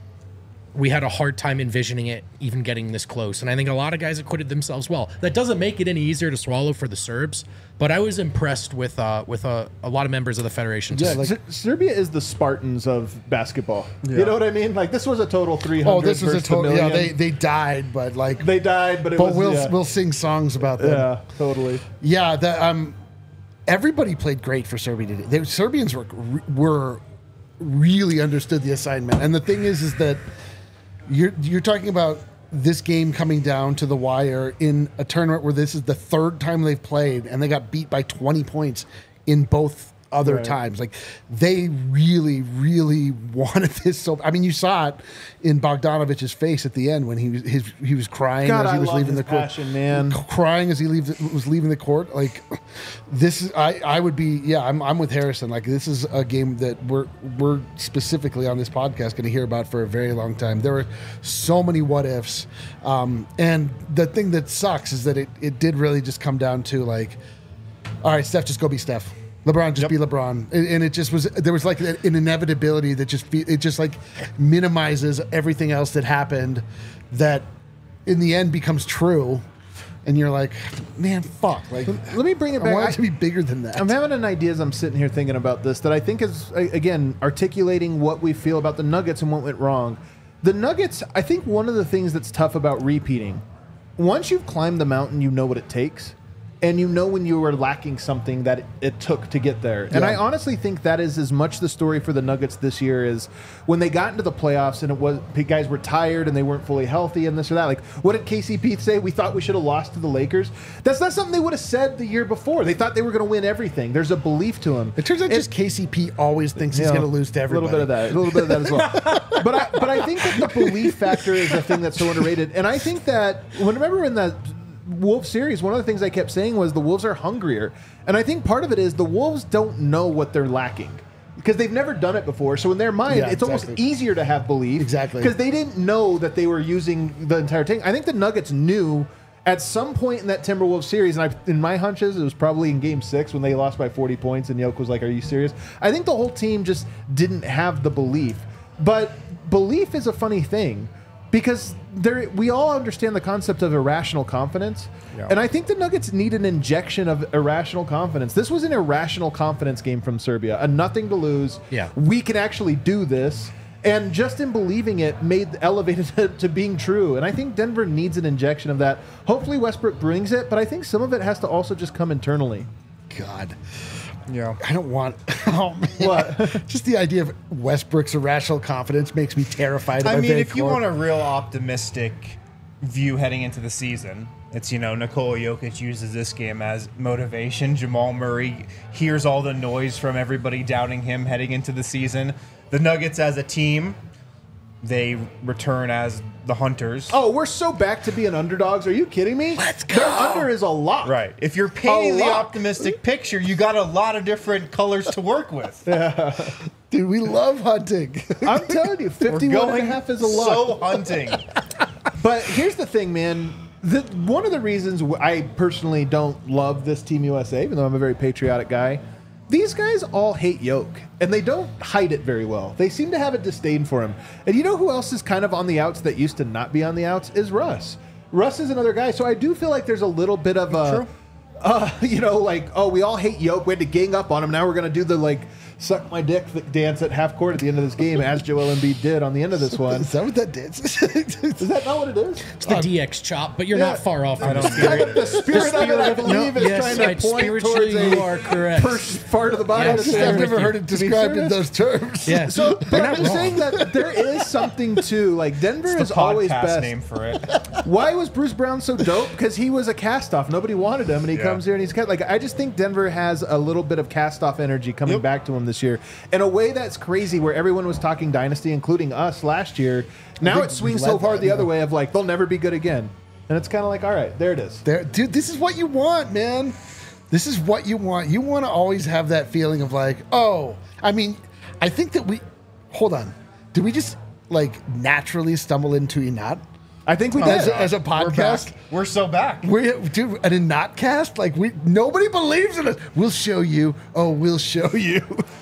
we had a hard time envisioning it even getting this close, and I think a lot of guys acquitted themselves well. That doesn't make it any easier to swallow for the Serbs, but I was impressed with uh, with uh, a lot of members of the federation. Yeah, too. like- Ser- Serbia is the Spartans of basketball. You know what I mean? Like, this was a total three hundred Oh, this was a versus total. Yeah, million. they they died, but like, They died, but it but was... we'll yeah. we'll sing songs about them. yeah, totally. Yeah, the, um, everybody played great for Serbia today. The Serbians were were really understood the assignment, and the thing is, is that you're you're talking about this game coming down to the wire in a tournament where this is the third time they've played, and they got beat by twenty points in both other Right. times. Like they really, really wanted this. So I mean, you saw it in Bogdanovic's face at the end when he was his, he was crying God, as he I was love leaving his the court. passion, man. Crying as he leaves, was leaving the court. Like this is, I, I would be, yeah, I'm, I'm with Harrison. Like this is a game that we're, we're specifically on this podcast going to hear about for a very long time. There were so many what ifs. Um, and the thing that sucks is that it, it did really just come down to like, all right, Steph, just go be Steph. LeBron, just Yep. be LeBron. And, and it just was, there was like an inevitability that just, fe- it just like minimizes everything else that happened that in the end becomes true. And you're like, man, fuck. Like, Let me bring it I back. want I- it to be bigger than that. I'm having an idea as I'm sitting here thinking about this that I think is, a- again, articulating what we feel about the Nuggets and what went wrong. The Nuggets, I think one of the things that's tough about repeating, once you've climbed the mountain, you know what it takes. And you know when you were lacking something that it took to get there. And Yeah. I honestly think that is as much the story for the Nuggets this year is when they got into the playoffs and it was the guys were tired and they weren't fully healthy and this or that. Like, what did K C P say? We thought we should have lost to the Lakers. That's not something they would have said the year before. They thought they were going to win everything. There's a belief to them. It turns out just K C P always thinks he's Yeah, going to lose to everybody. A little bit of that. A little bit of that as well. but I but I think that the belief factor is a thing that's so underrated. And I think that when remember in that Wolves series, one of the things I kept saying was the Wolves are hungrier. And I think part of it is the Wolves don't know what they're lacking. Because they've never done it before. So in their mind, Yeah, it's almost exactly. easier to have belief. Exactly. Because they didn't know that they were using the entire thing. I think the Nuggets knew at some point in that Timberwolves series, and I, in my hunches, it was probably in game six when they lost by forty points and Yoke was like, are you serious? I think the whole team just didn't have the belief. But belief is a funny thing because there, we all understand the concept of irrational confidence. Yeah. And I think the Nuggets need an injection of irrational confidence. This was an irrational confidence game from Serbia, a nothing to lose. Yeah. We can actually do this. And just in believing it made elevated it to being true. And I think Denver needs an injection of that. Hopefully Westbrook brings it, but I think some of it has to also just come internally. God. Yeah. I don't want. Oh, man. What? Just the idea of Westbrook's irrational confidence makes me terrified of I my mean, very if you core. want a real optimistic view heading into the season, it's, you know, Nikola Jokic uses this game as motivation. Jamal Murray hears all the noise from everybody doubting him heading into the season. the Nuggets as a team, they return as the Hunters. Oh, we're so back to being underdogs. Are you kidding me? Let's go. Their under is a lot. Right. If you're painting A the lot. optimistic picture, you got a lot of different colors to work with. Dude, we love hunting. I'm telling you, We're fifty-one and going a half is a lot. so hunting. But here's the thing, man. The, one of the reasons wh- I personally don't love this Team U S A, even though I'm a very patriotic guy, these guys all hate Yoke, and they don't hide it very well. They seem to have a disdain for him. And you know who else is kind of on the outs that used to not be on the outs? Is Russ. Russ is another guy. So I do feel like there's a little bit of a, True. uh, you know, like, oh, we all hate Yoke. We had to gang up on him. Now we're going to do the, like, suck my dick dance at half court at the end of this game, as Joel Embiid did on the end of this one. Is that what that dance is? Is that not what it is? It's the D X chop, but you're yeah. not far off from I the don't spirit. get it. The spirit, of it, I believe, is Yes, trying I- to point spiritually towards a you are correct. first part of the body. Yes, that's Just, I'm I've there. with never you. heard it described in those terms. Yeah. So, but You're I'm not just wrong. saying that there is something to like Denver It's is the always podcast best. name for it. Why was Bruce Brown so dope? Because he was a cast-off. Nobody wanted him, and he Yeah. comes here and he's cast. Like I just think Denver has a little bit of cast-off energy coming Yep. back to him this year in a way that's crazy. Where everyone was talking dynasty, including us last year. Now think it swings we so led far that, the other yeah. way of like they'll never be good again, and it's kind of like all right, there it is. There, dude, this is what you want, man. This is what you want. You want to always have that feeling of like, oh, I mean, I think that we, hold on, did we just like naturally stumble into Inat I think we did. as, a, as a We're podcast? back. We're so back. We dude, an Inat cast? Like we, nobody believes in us. We'll show you. Oh, we'll show you.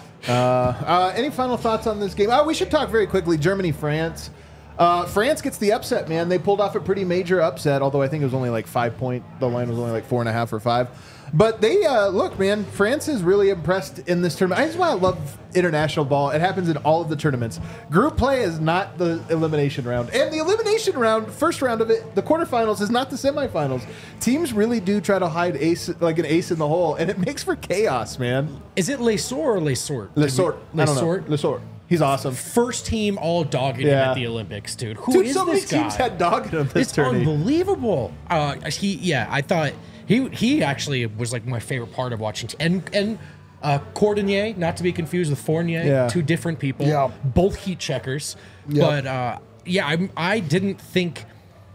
Uh, any final thoughts on this game? Oh, we should talk very quickly. Germany, France. Uh, France gets the upset, man. They pulled off a pretty major upset, although I think it was only like five point. The line was only like four and a half or five. But they uh, look, man. France is really impressed in this tournament. I just want to love international ball. It happens in all of the tournaments. Group play is not the elimination round, and the elimination round, first round of it, the quarterfinals is not the semifinals. Teams really do try to hide ace like an ace in the hole, and it makes for chaos, man. Is it Lesor or Lesort? Le Sort, I don't know. Lesort? Le Sort. He's awesome. First team all dogging him Yeah. at the Olympics, dude. Who Dude, is so many this guy? teams had dog in him this It's tourney. unbelievable. Uh, he, yeah, I thought he he actually was like my favorite part of watching. T- and and uh, Cordonier, not to be confused with Fournier, Yeah. two different people. Yeah. Both heat checkers. Yep. But uh, yeah, I I didn't think.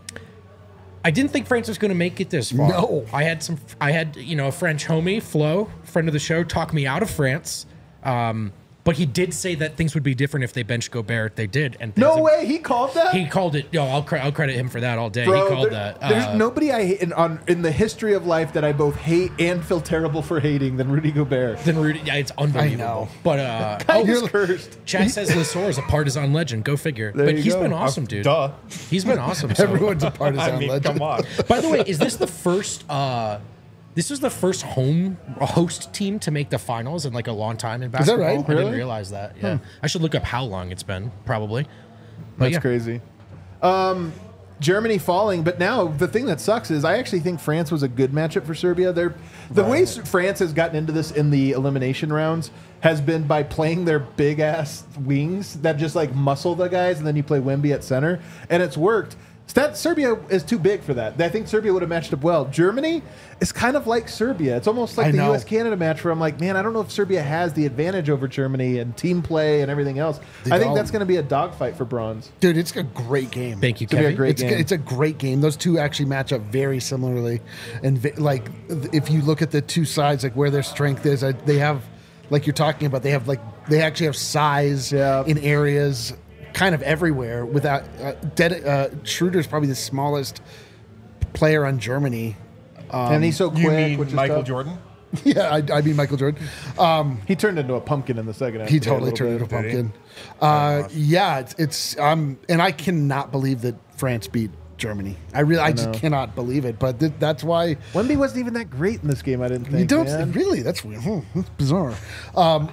I didn't think France was going to make it this far. No. I had some. I had you know a French homie, Flo, friend of the show, talk me out of France. Um, but he did say that things would be different if they benched Gobert. They did, and things No have- way, he called that. He called it. Yo, I'll, cre- I'll credit him for that all day. Bro, he called there- that. There's uh, nobody I hate in, on, in the history of life that I both hate and feel terrible for hating than Rudy Gobert. Then Rudy, yeah, it's unbelievable. know. But uh, Oh, oh, he's cursed. Chad says Lesor is a partisan legend. Go figure. There but you he's go. been awesome, dude. Duh. He's been awesome. So. Everyone's a partisan I mean, legend. come on. By the way, is this the first? Uh, this was the first home host team to make the finals in like a long time in that basketball. right? I didn't Really? realize that. Yeah, I should look up how long it's been. Probably. But That's yeah. crazy. Um, Germany falling, but now the thing that sucks is I actually think France was a good matchup for Serbia. They're, the way s- France has gotten into this in the elimination rounds has been by playing their big ass wings that just like muscle the guys, and then you play Wemby at center, and it's worked. That Serbia is too big for that. I think Serbia would have matched up well. Germany is kind of like Serbia. It's almost like I the know. U S Canada match where I'm like, man, I don't know if Serbia has the advantage over Germany and team play and everything else. They I think don't. that's going to be a dogfight for bronze. Dude, it's a great game. Thank you, It's gonna be a Kevin. great It's, game. it's a great game. Those two actually match up very similarly, and vi- like th- if you look at the two sides, like where their strength is, I, they have, like you're talking about, they have like they actually have size Yeah. in areas kind of everywhere. Without uh, Dead, uh, Schroeder's probably the smallest player on Germany. and he's so quick. You mean which is Michael tough. Jordan? yeah, I, I mean Michael Jordan. Um, He turned into a pumpkin in the second half. he today a totally little turned into a bit. Did he? pumpkin. Uh, yeah, it's, it's um, and I cannot believe that France beat Germany. I really, I, just know. cannot believe it. But th- that's why. Wemby wasn't even that great in this game. I didn't think. You don't man. really? That's weird. Hmm, that's bizarre. Um,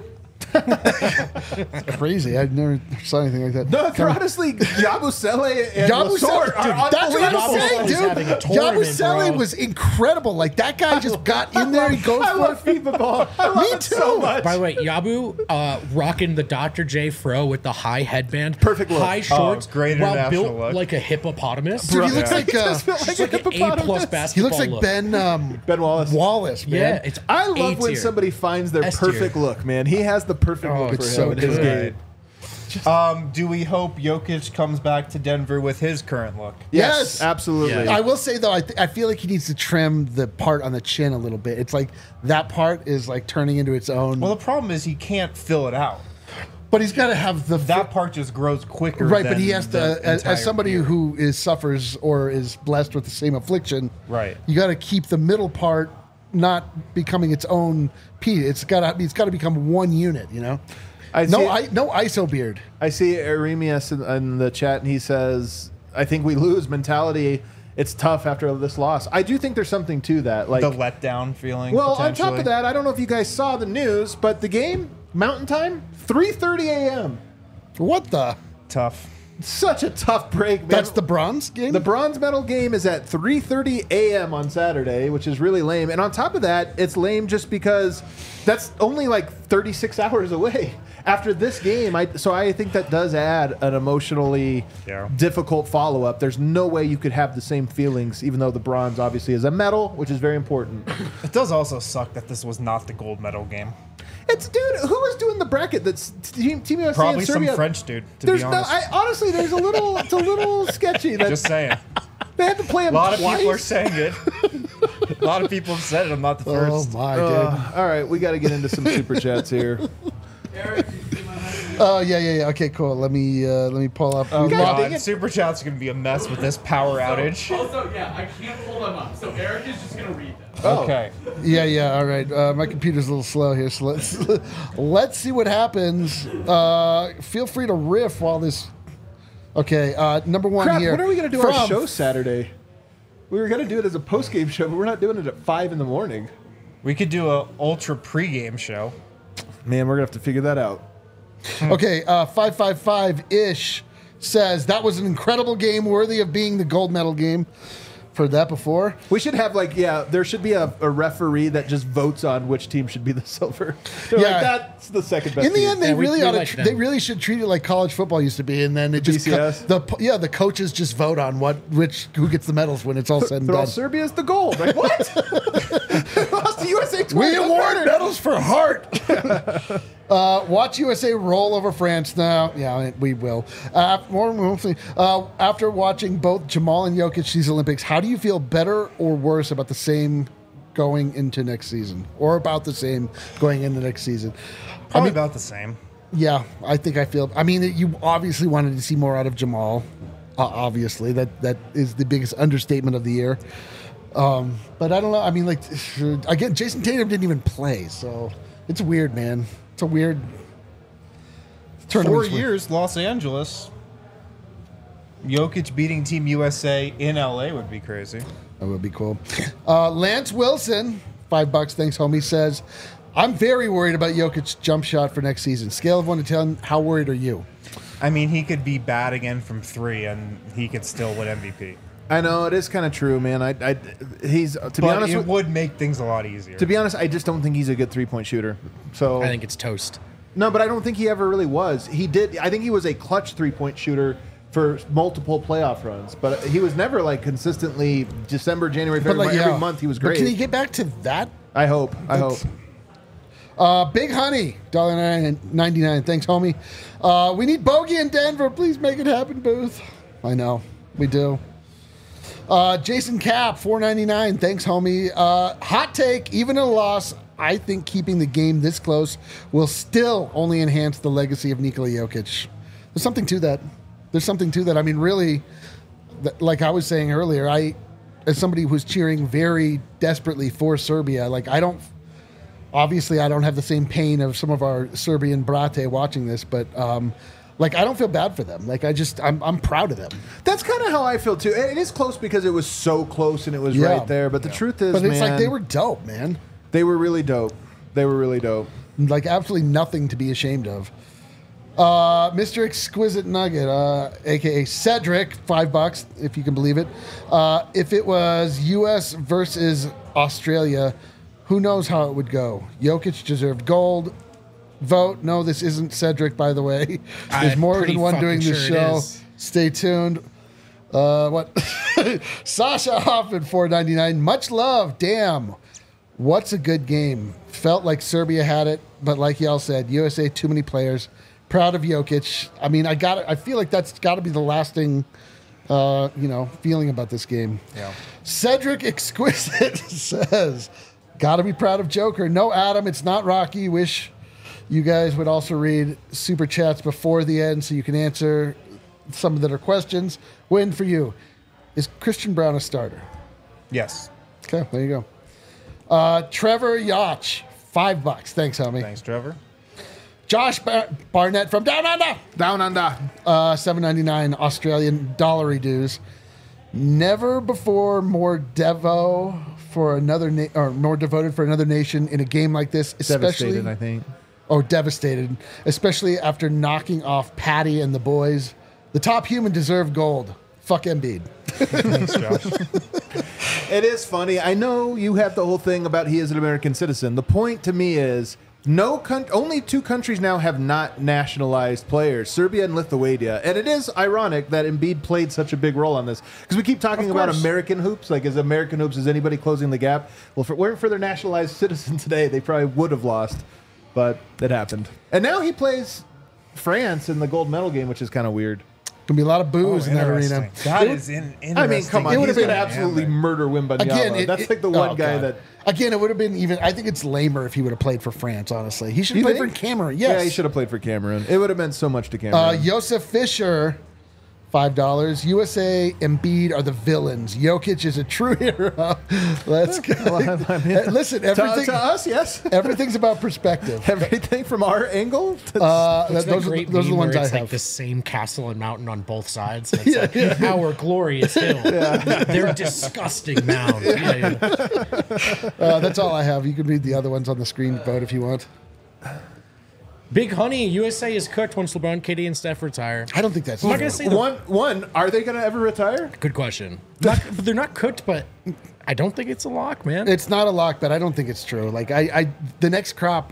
crazy. I've never saw anything like that. No, they're honestly Yabusele and Yabusele, Lasort are dude, that's what I'm unbelievable. saying, Yabusele is having a dude. tournament, Yabusele bro. was incredible. Like that guy just got in there and goes I for love it. FIFA ball. I love Me it so too. much. By the way, Yabu uh, rocking the Doctor J fro with the high headband, Perfect look. high shorts, Oh, great while international built look. like a hippopotamus. Dude, he looks Yeah. like He uh, does feel like It's a like an A hippopotamus. plus he basketball. looks like look. Ben um, Ben Wallace. Wallace, man. Yeah, it's I love A when tier. somebody finds their S tier. perfect look, man. He has the perfect Oh, look it's for so him in his good. game. Um, do we hope Jokic comes back to Denver with his current look? Yes. absolutely. Yeah. I will say though, I, th- I feel like he needs to trim the part on the chin a little bit. It's like that part is like turning into its own. Well, the problem is he can't fill it out. but he's got to have the That part just grows quicker. right. But than he has the to, as, entire as somebody beard. who is suffers or is blessed with the same affliction. Right. You got to keep the middle part not becoming its own piece. It's got to. It's got to become one unit. You know. I No, see, I, no I S O beard. I see Aremius in, in the chat, and he says, "I think we lose mentality. It's tough after this loss." I do think there's something to that. Like, the letdown feeling. well, on top potentially. of that, I don't know if you guys saw the news, but the game Mountain Time, three thirty a.m. What the? tough. Such a tough break, man. That's the bronze game. The bronze medal game is at three thirty a.m. on Saturday, which is really lame. And on top of that, it's lame just because that's only like thirty-six hours away after this game. I, so I think that does add an emotionally Yeah. difficult follow-up. There's no way you could have the same feelings, even though the bronze obviously is a medal, which is very important. It does also suck that this was not the gold medal game. It's dude, who was doing the bracket? That's Team, team U S A Probably and some Serbia. French dude. To There's be no, honest, I, honestly, there's a little, it's a little sketchy that just saying. they had to play A him lot of twice. people are saying it. A lot of people have said it. I'm not the oh first. my dude. Uh, all right, we got to get into some super chats here. Oh yeah, yeah, yeah. Okay, cool. Let me uh, let me pull up. Oh We God, lost- dang god, it. Super Chat's gonna be a mess with this power outage. Also, yeah, I can't pull them up. So Eric is just gonna read them. Oh. Okay. Yeah, yeah. All right. Uh, my computer's a little slow here, so let's let's see what happens. Uh, feel free to riff while this. Okay. Uh, number one Crap, here. when are we going to do our From- show Saturday? We were going to do it as a post-game show, but we're not doing it at five in the morning. We could do a ultra pregame show. Man, we're going to have to figure that out. Okay. Uh, five five five ish says that was an incredible game, worthy of being the gold medal game. Heard that before. We should have, like, yeah, there should be a, a referee that just votes on which team should be the silver. They're Yeah. like, that's the second best In the team. end, they Yeah, we- really we ought to. like tr- them. they really should treat it like college football used to be, and then it The just B C S? the po- yeah the coaches just vote on what which who gets the medals when it's all said and They're all done. Serbia's the gold. Like, what? Lost to U S A twice. We That's award better. medals for heart. uh, watch U S A roll over France now. Yeah, we will. Uh, more mostly, uh, after watching both Jamal and Jokic these Olympics, how do you feel better or worse about the same going into next season, or about the same going into next season? Probably about the same. Yeah, I think I feel. I mean, you obviously wanted to see more out of Jamal. Uh, obviously, that that is the biggest understatement of the year. Um, but I don't know. I mean, like again, Jason Tatum didn't even play, so it's weird, man. It's a weird Four tournament. years, Los Angeles. Jokic beating Team U S A in L A would be crazy. That would be cool. Uh, Lance Wilson, five bucks. Thanks, homie. Says, I'm very worried about Jokic's jump shot for next season. Scale of one to ten. How worried are you? I mean, he could be bad again from three, and he could still win M V P. I know, it is kind of true, man. I, I, he's, to be But honest it with, would make things a lot easier. to be honest, I just don't think he's a good three-point shooter. So I think it's toast. No, but I don't think he ever really was. He did. I think he was a clutch three-point shooter for multiple playoff runs, but he was never like consistently December, January, But February. like, every yeah. month he was But great. can he get back to that? I hope. I hope. That's- Uh, Big Honey, one ninety-nine. Thanks, homie. Uh, we need Bogey in Denver. Please make it happen, Booth. I know. We do. Uh, Jason Cap, four ninety-nine. Thanks, homie. Uh, hot take, even in a loss, I think keeping the game this close will still only enhance the legacy of Nikola Jokic. There's something to that. There's something to that. I mean, really, th- like I was saying earlier, I, as somebody who's cheering very desperately for Serbia, like I don't, obviously I don't have the same pain of some of our Serbian brate watching this, but um, like I don't feel bad for them. Like I just, I'm, I'm proud of them. That's kind of how I feel too. It is close because it was so close and it was Yeah. right there. But the truth is, But it's man, like they were dope, man. they were really dope. They were really dope. Like absolutely nothing to be ashamed of. Uh, Mister Exquisite Nugget, uh, aka Cedric, five bucks if you can believe it. Uh, if it was U S versus Australia, who knows how it would go? Jokic deserved gold. Vote. No, this isn't Cedric, by the way. There's I'm more pretty than one fucking doing this sure it show. is. Stay tuned. Uh, what? Sasha Hoffman, four ninety-nine. Much love. Damn. What's a good game? Felt like Serbia had it, but like y'all said, U S A, too many players. proud of Jokic. I mean, I got. I feel like that's got to be the lasting, uh, you know, feeling about this game. Yeah. Cedric Exquisite says, "Got to be proud of Joker." No, Adam, it's not Rocky. Wish you guys would also read super chats before the end so you can answer some of that are questions. Win for you. Is Christian Brown a starter? Yes. Okay, there you go. Uh, Trevor Yacht, five bucks. Thanks, homie. Thanks, Trevor. Josh Bar- Barnett from Down Under, Down under. uh, seven ninety-nine Australian dollary dues. Never before more devo for another na- or more devoted for another nation in a game like this, especially Devastated, I think. oh devastated, especially after knocking off Patty and the boys. The top human deserved gold. Fuck Embiid. Thanks, Josh. It is funny. I know you have the whole thing about he is an American citizen. The point to me is no coun- only two countries now have not nationalized players, Serbia and Lithuania. And it is ironic that Embiid played such a big role on this because we keep talking about American hoops. Like, is American hoops, is anybody closing the gap? Well, if it weren't for their nationalized citizen today, they probably would have lost. But it happened. And now he plays France in the gold medal game, which is kind of weird. Gonna be a lot of booze Oh, in that arena. interesting. That is in, interesting. I mean, come on. It would He's have going to been- absolutely murder Wembanyama. Again, it, That's it- like the one oh, guy God. that... Again, it would have been even. I think it's lamer if he would have played for France. Honestly, he should You have played think? for Cameroon. Yes, Yeah, he should have played for Cameroon. It would have meant so much to Uh, Cameroon. Joseph Fisher, five dollars. U S A, Embiid are the villains. Jokic is a true hero. Let's go. I mean, Hey, listen, to, everything. to us, yes. Everything's about perspective. Everything from our angle. To, Uh, It's that- that those are, great those are the meme ones where I it's have. like the same castle and mountain on both sides. And it's like our glorious hill. They're disgusting mound. Yeah, yeah. Uh, that's all I have. You can read the other ones on the screen, vote if you want. Big Honey, U S A is cooked once LeBron, K D, and Steph retire. I don't think that's I'm not true. gonna say the one, one. Are they going to ever retire? Good question. Not, but they're not cooked, but I don't think it's a lock, man. It's not a lock, but I don't think it's true. Like I, I the next crop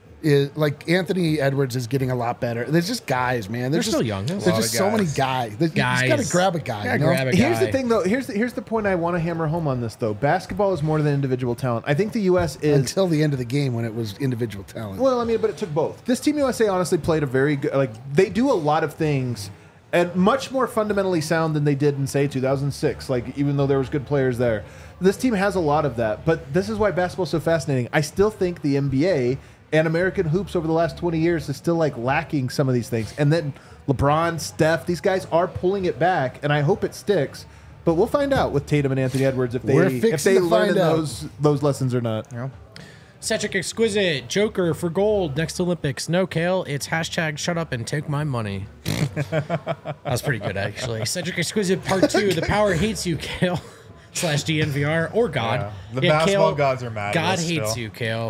is like Anthony Edwards is getting a lot better. There's just guys, man. There's They're just, still young. There's There's a lot just of so many guys. guys. There's, Guys. You just got to grab a guy. Gotta you know? grab a Here's the guy. thing, though. Here's the, here's the point I want to hammer home on this, though. Basketball is more than individual talent. I think the U S is... Until the end of the game when it was individual talent. Well, I mean, but it took both. This Team U S A honestly played a very good... Like, they do a lot of things and much more fundamentally sound than they did in, say, two thousand six. Like, even though there was good players there. This team has a lot of that. But this is why basketball's so fascinating. I still think the N B A... and American hoops over the last twenty years is still like lacking some of these things. And then LeBron, Steph, these guys are pulling it back, and I hope it sticks. But we'll find out with Tatum and Anthony Edwards if they We're if fixing they to learn find out. those those lessons or not. Yeah. Cedric Exquisite, Joker for gold next to Olympics. No, Kale, it's hashtag shut up and take my money. That was pretty good, actually. Cedric Exquisite part two, the power hates you, Kale. Slash D N V R or God. Yeah. The basketball gods are mad at God us hates still. you, Kale.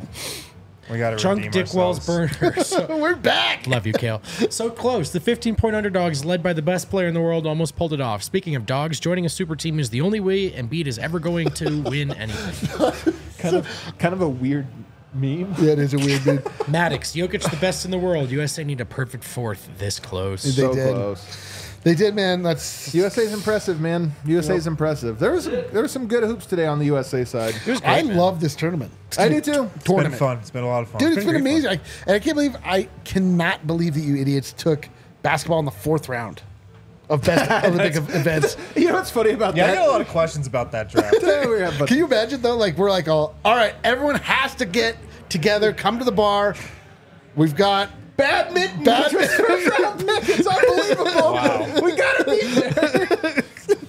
We got to Drunk redeem Dick Wells ourselves. burner. So, We're back. love you, Kale. So close. The fifteen-point underdogs, led by the best player in the world, almost pulled it off. Speaking of dogs, joining a super team is the only way Embiid is ever going to win anything. Kind of kind of a weird meme. Yeah, it is a weird dude. Maddox, Jokic, the best in the world. U S A need a perfect fourth this close. They So did. close. They did, man. That's U S A's impressive, man. U S A's impressive. There was some, there was some good hoops today on the U S A side. I love this tournament. I do too. It's been Tournament. fun. It's been a lot of fun. Dude, it's been great fun. amazing. I, and I can't believe, I cannot believe that you idiots took basketball in the fourth round of best Olympic events. You know what's funny about Yeah, I that? got a lot of questions about that draft. Yeah, we have, but Can you imagine though? Like we're like, all, all right, everyone has to get together, come to the bar. We've got badminton. Badminton. First round pick. It's unbelievable. Wow. We gotta be there.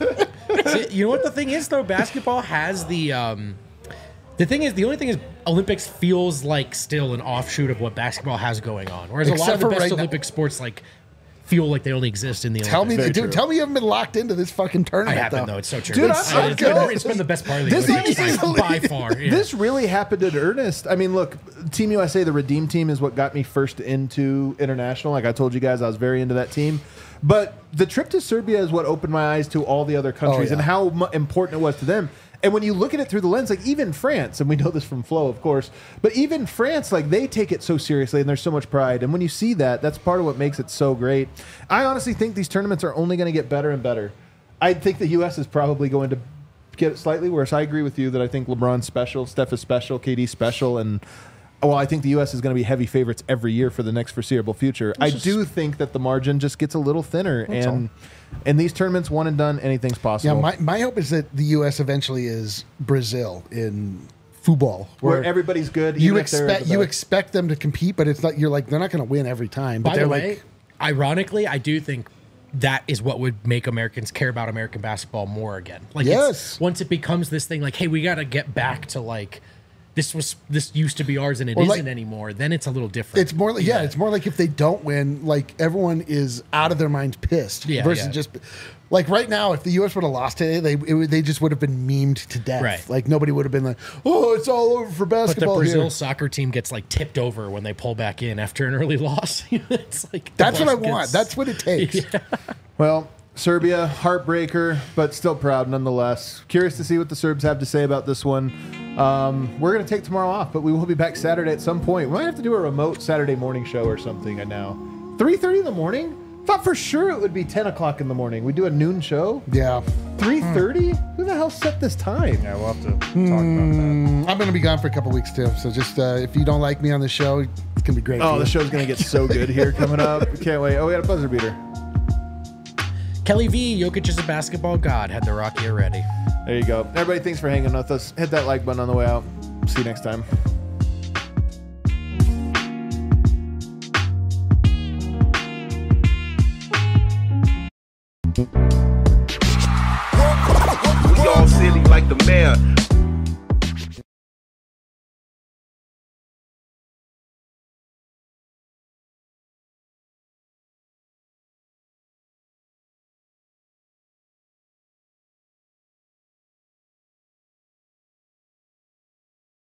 See, you know what the thing is though? Basketball has the um the thing is the only thing is Olympics feels like still an offshoot of what basketball has going on. Whereas a lot Except of the for best right now- Olympic sports like feel like they only exist in the Tell me, Olympics. Very dude. true. Tell me you haven't been locked into this fucking I tournament. haven't though. though. It's so true. Dude, it's, I'm it's so- been, it's been the best part of the This Olympics by, easily- by far. Yeah. This really happened in earnest. I mean, look, Team U S A, the Redeem team, is what got me first into international. Like I told you guys, I was very into that team. But the trip to Serbia is what opened my eyes to all the other countries Oh, yeah. and how mu- important it was to them. And when you look at it through the lens, like even France, and we know this from Flo, of course, but even France, like they take it so seriously and there's so much pride. And when you see that, that's part of what makes it so great. I honestly think these tournaments are only going to get better and better. I think the U S is probably going to get it slightly worse. I agree with you that I think LeBron's special, Steph is special, K D's special, and well, I think the U S is going to be heavy favorites every year for the next foreseeable future. I just- do think that the margin just gets a little thinner, and in these tournaments, one and done, anything's possible. Yeah, my, my hope is that the U S eventually is Brazil in football, where everybody's good. you even if they're expect the you best. expect them to compete, but it's not. You're like they're not going to win every time. But By they're the way, like, ironically, I do think that is what would make Americans care about American basketball more again. Like, it's- Yes. once it becomes this thing, like, hey, we got to get back to like this was this used to be ours and it Or, isn't like, anymore. Then it's a little different. it's more like yeah, it's more like if they don't win, like everyone is out of their minds pissed. Yeah, versus yeah. just like right now, if the U S would have lost today, they it, would- they just would have been memed to death. Right. Like nobody would have been like, oh, it's all over for But the basketball Brazil here. soccer team gets like tipped over when they pull back in after an early loss. It's like the That's what I bus want. gets- That's what it takes. Well, Serbia, heartbreaker, but still proud nonetheless. Curious to see what the Serbs have to say about this one. Um, we're going to take tomorrow off, but we will be back Saturday at some point. We might have to do a remote Saturday morning show or something. I know. three thirty in the morning? Thought for sure it would be ten o'clock in the morning. We do a noon show? Yeah. three thirty? Who the hell set this time? Yeah, we'll have to talk about that. I'm going to be gone for a couple weeks too. So just uh, if you don't like me on the show, it's going to be great. Oh, for the you. show's going to get so good here coming up. Can't wait. Oh, we got a buzzer beater. Kelly V, Jokic is a basketball god, had the Rocky already. There you go. Everybody, thanks for hanging with us. Hit that like button on the way out. See you next time. We all silly like the mayor.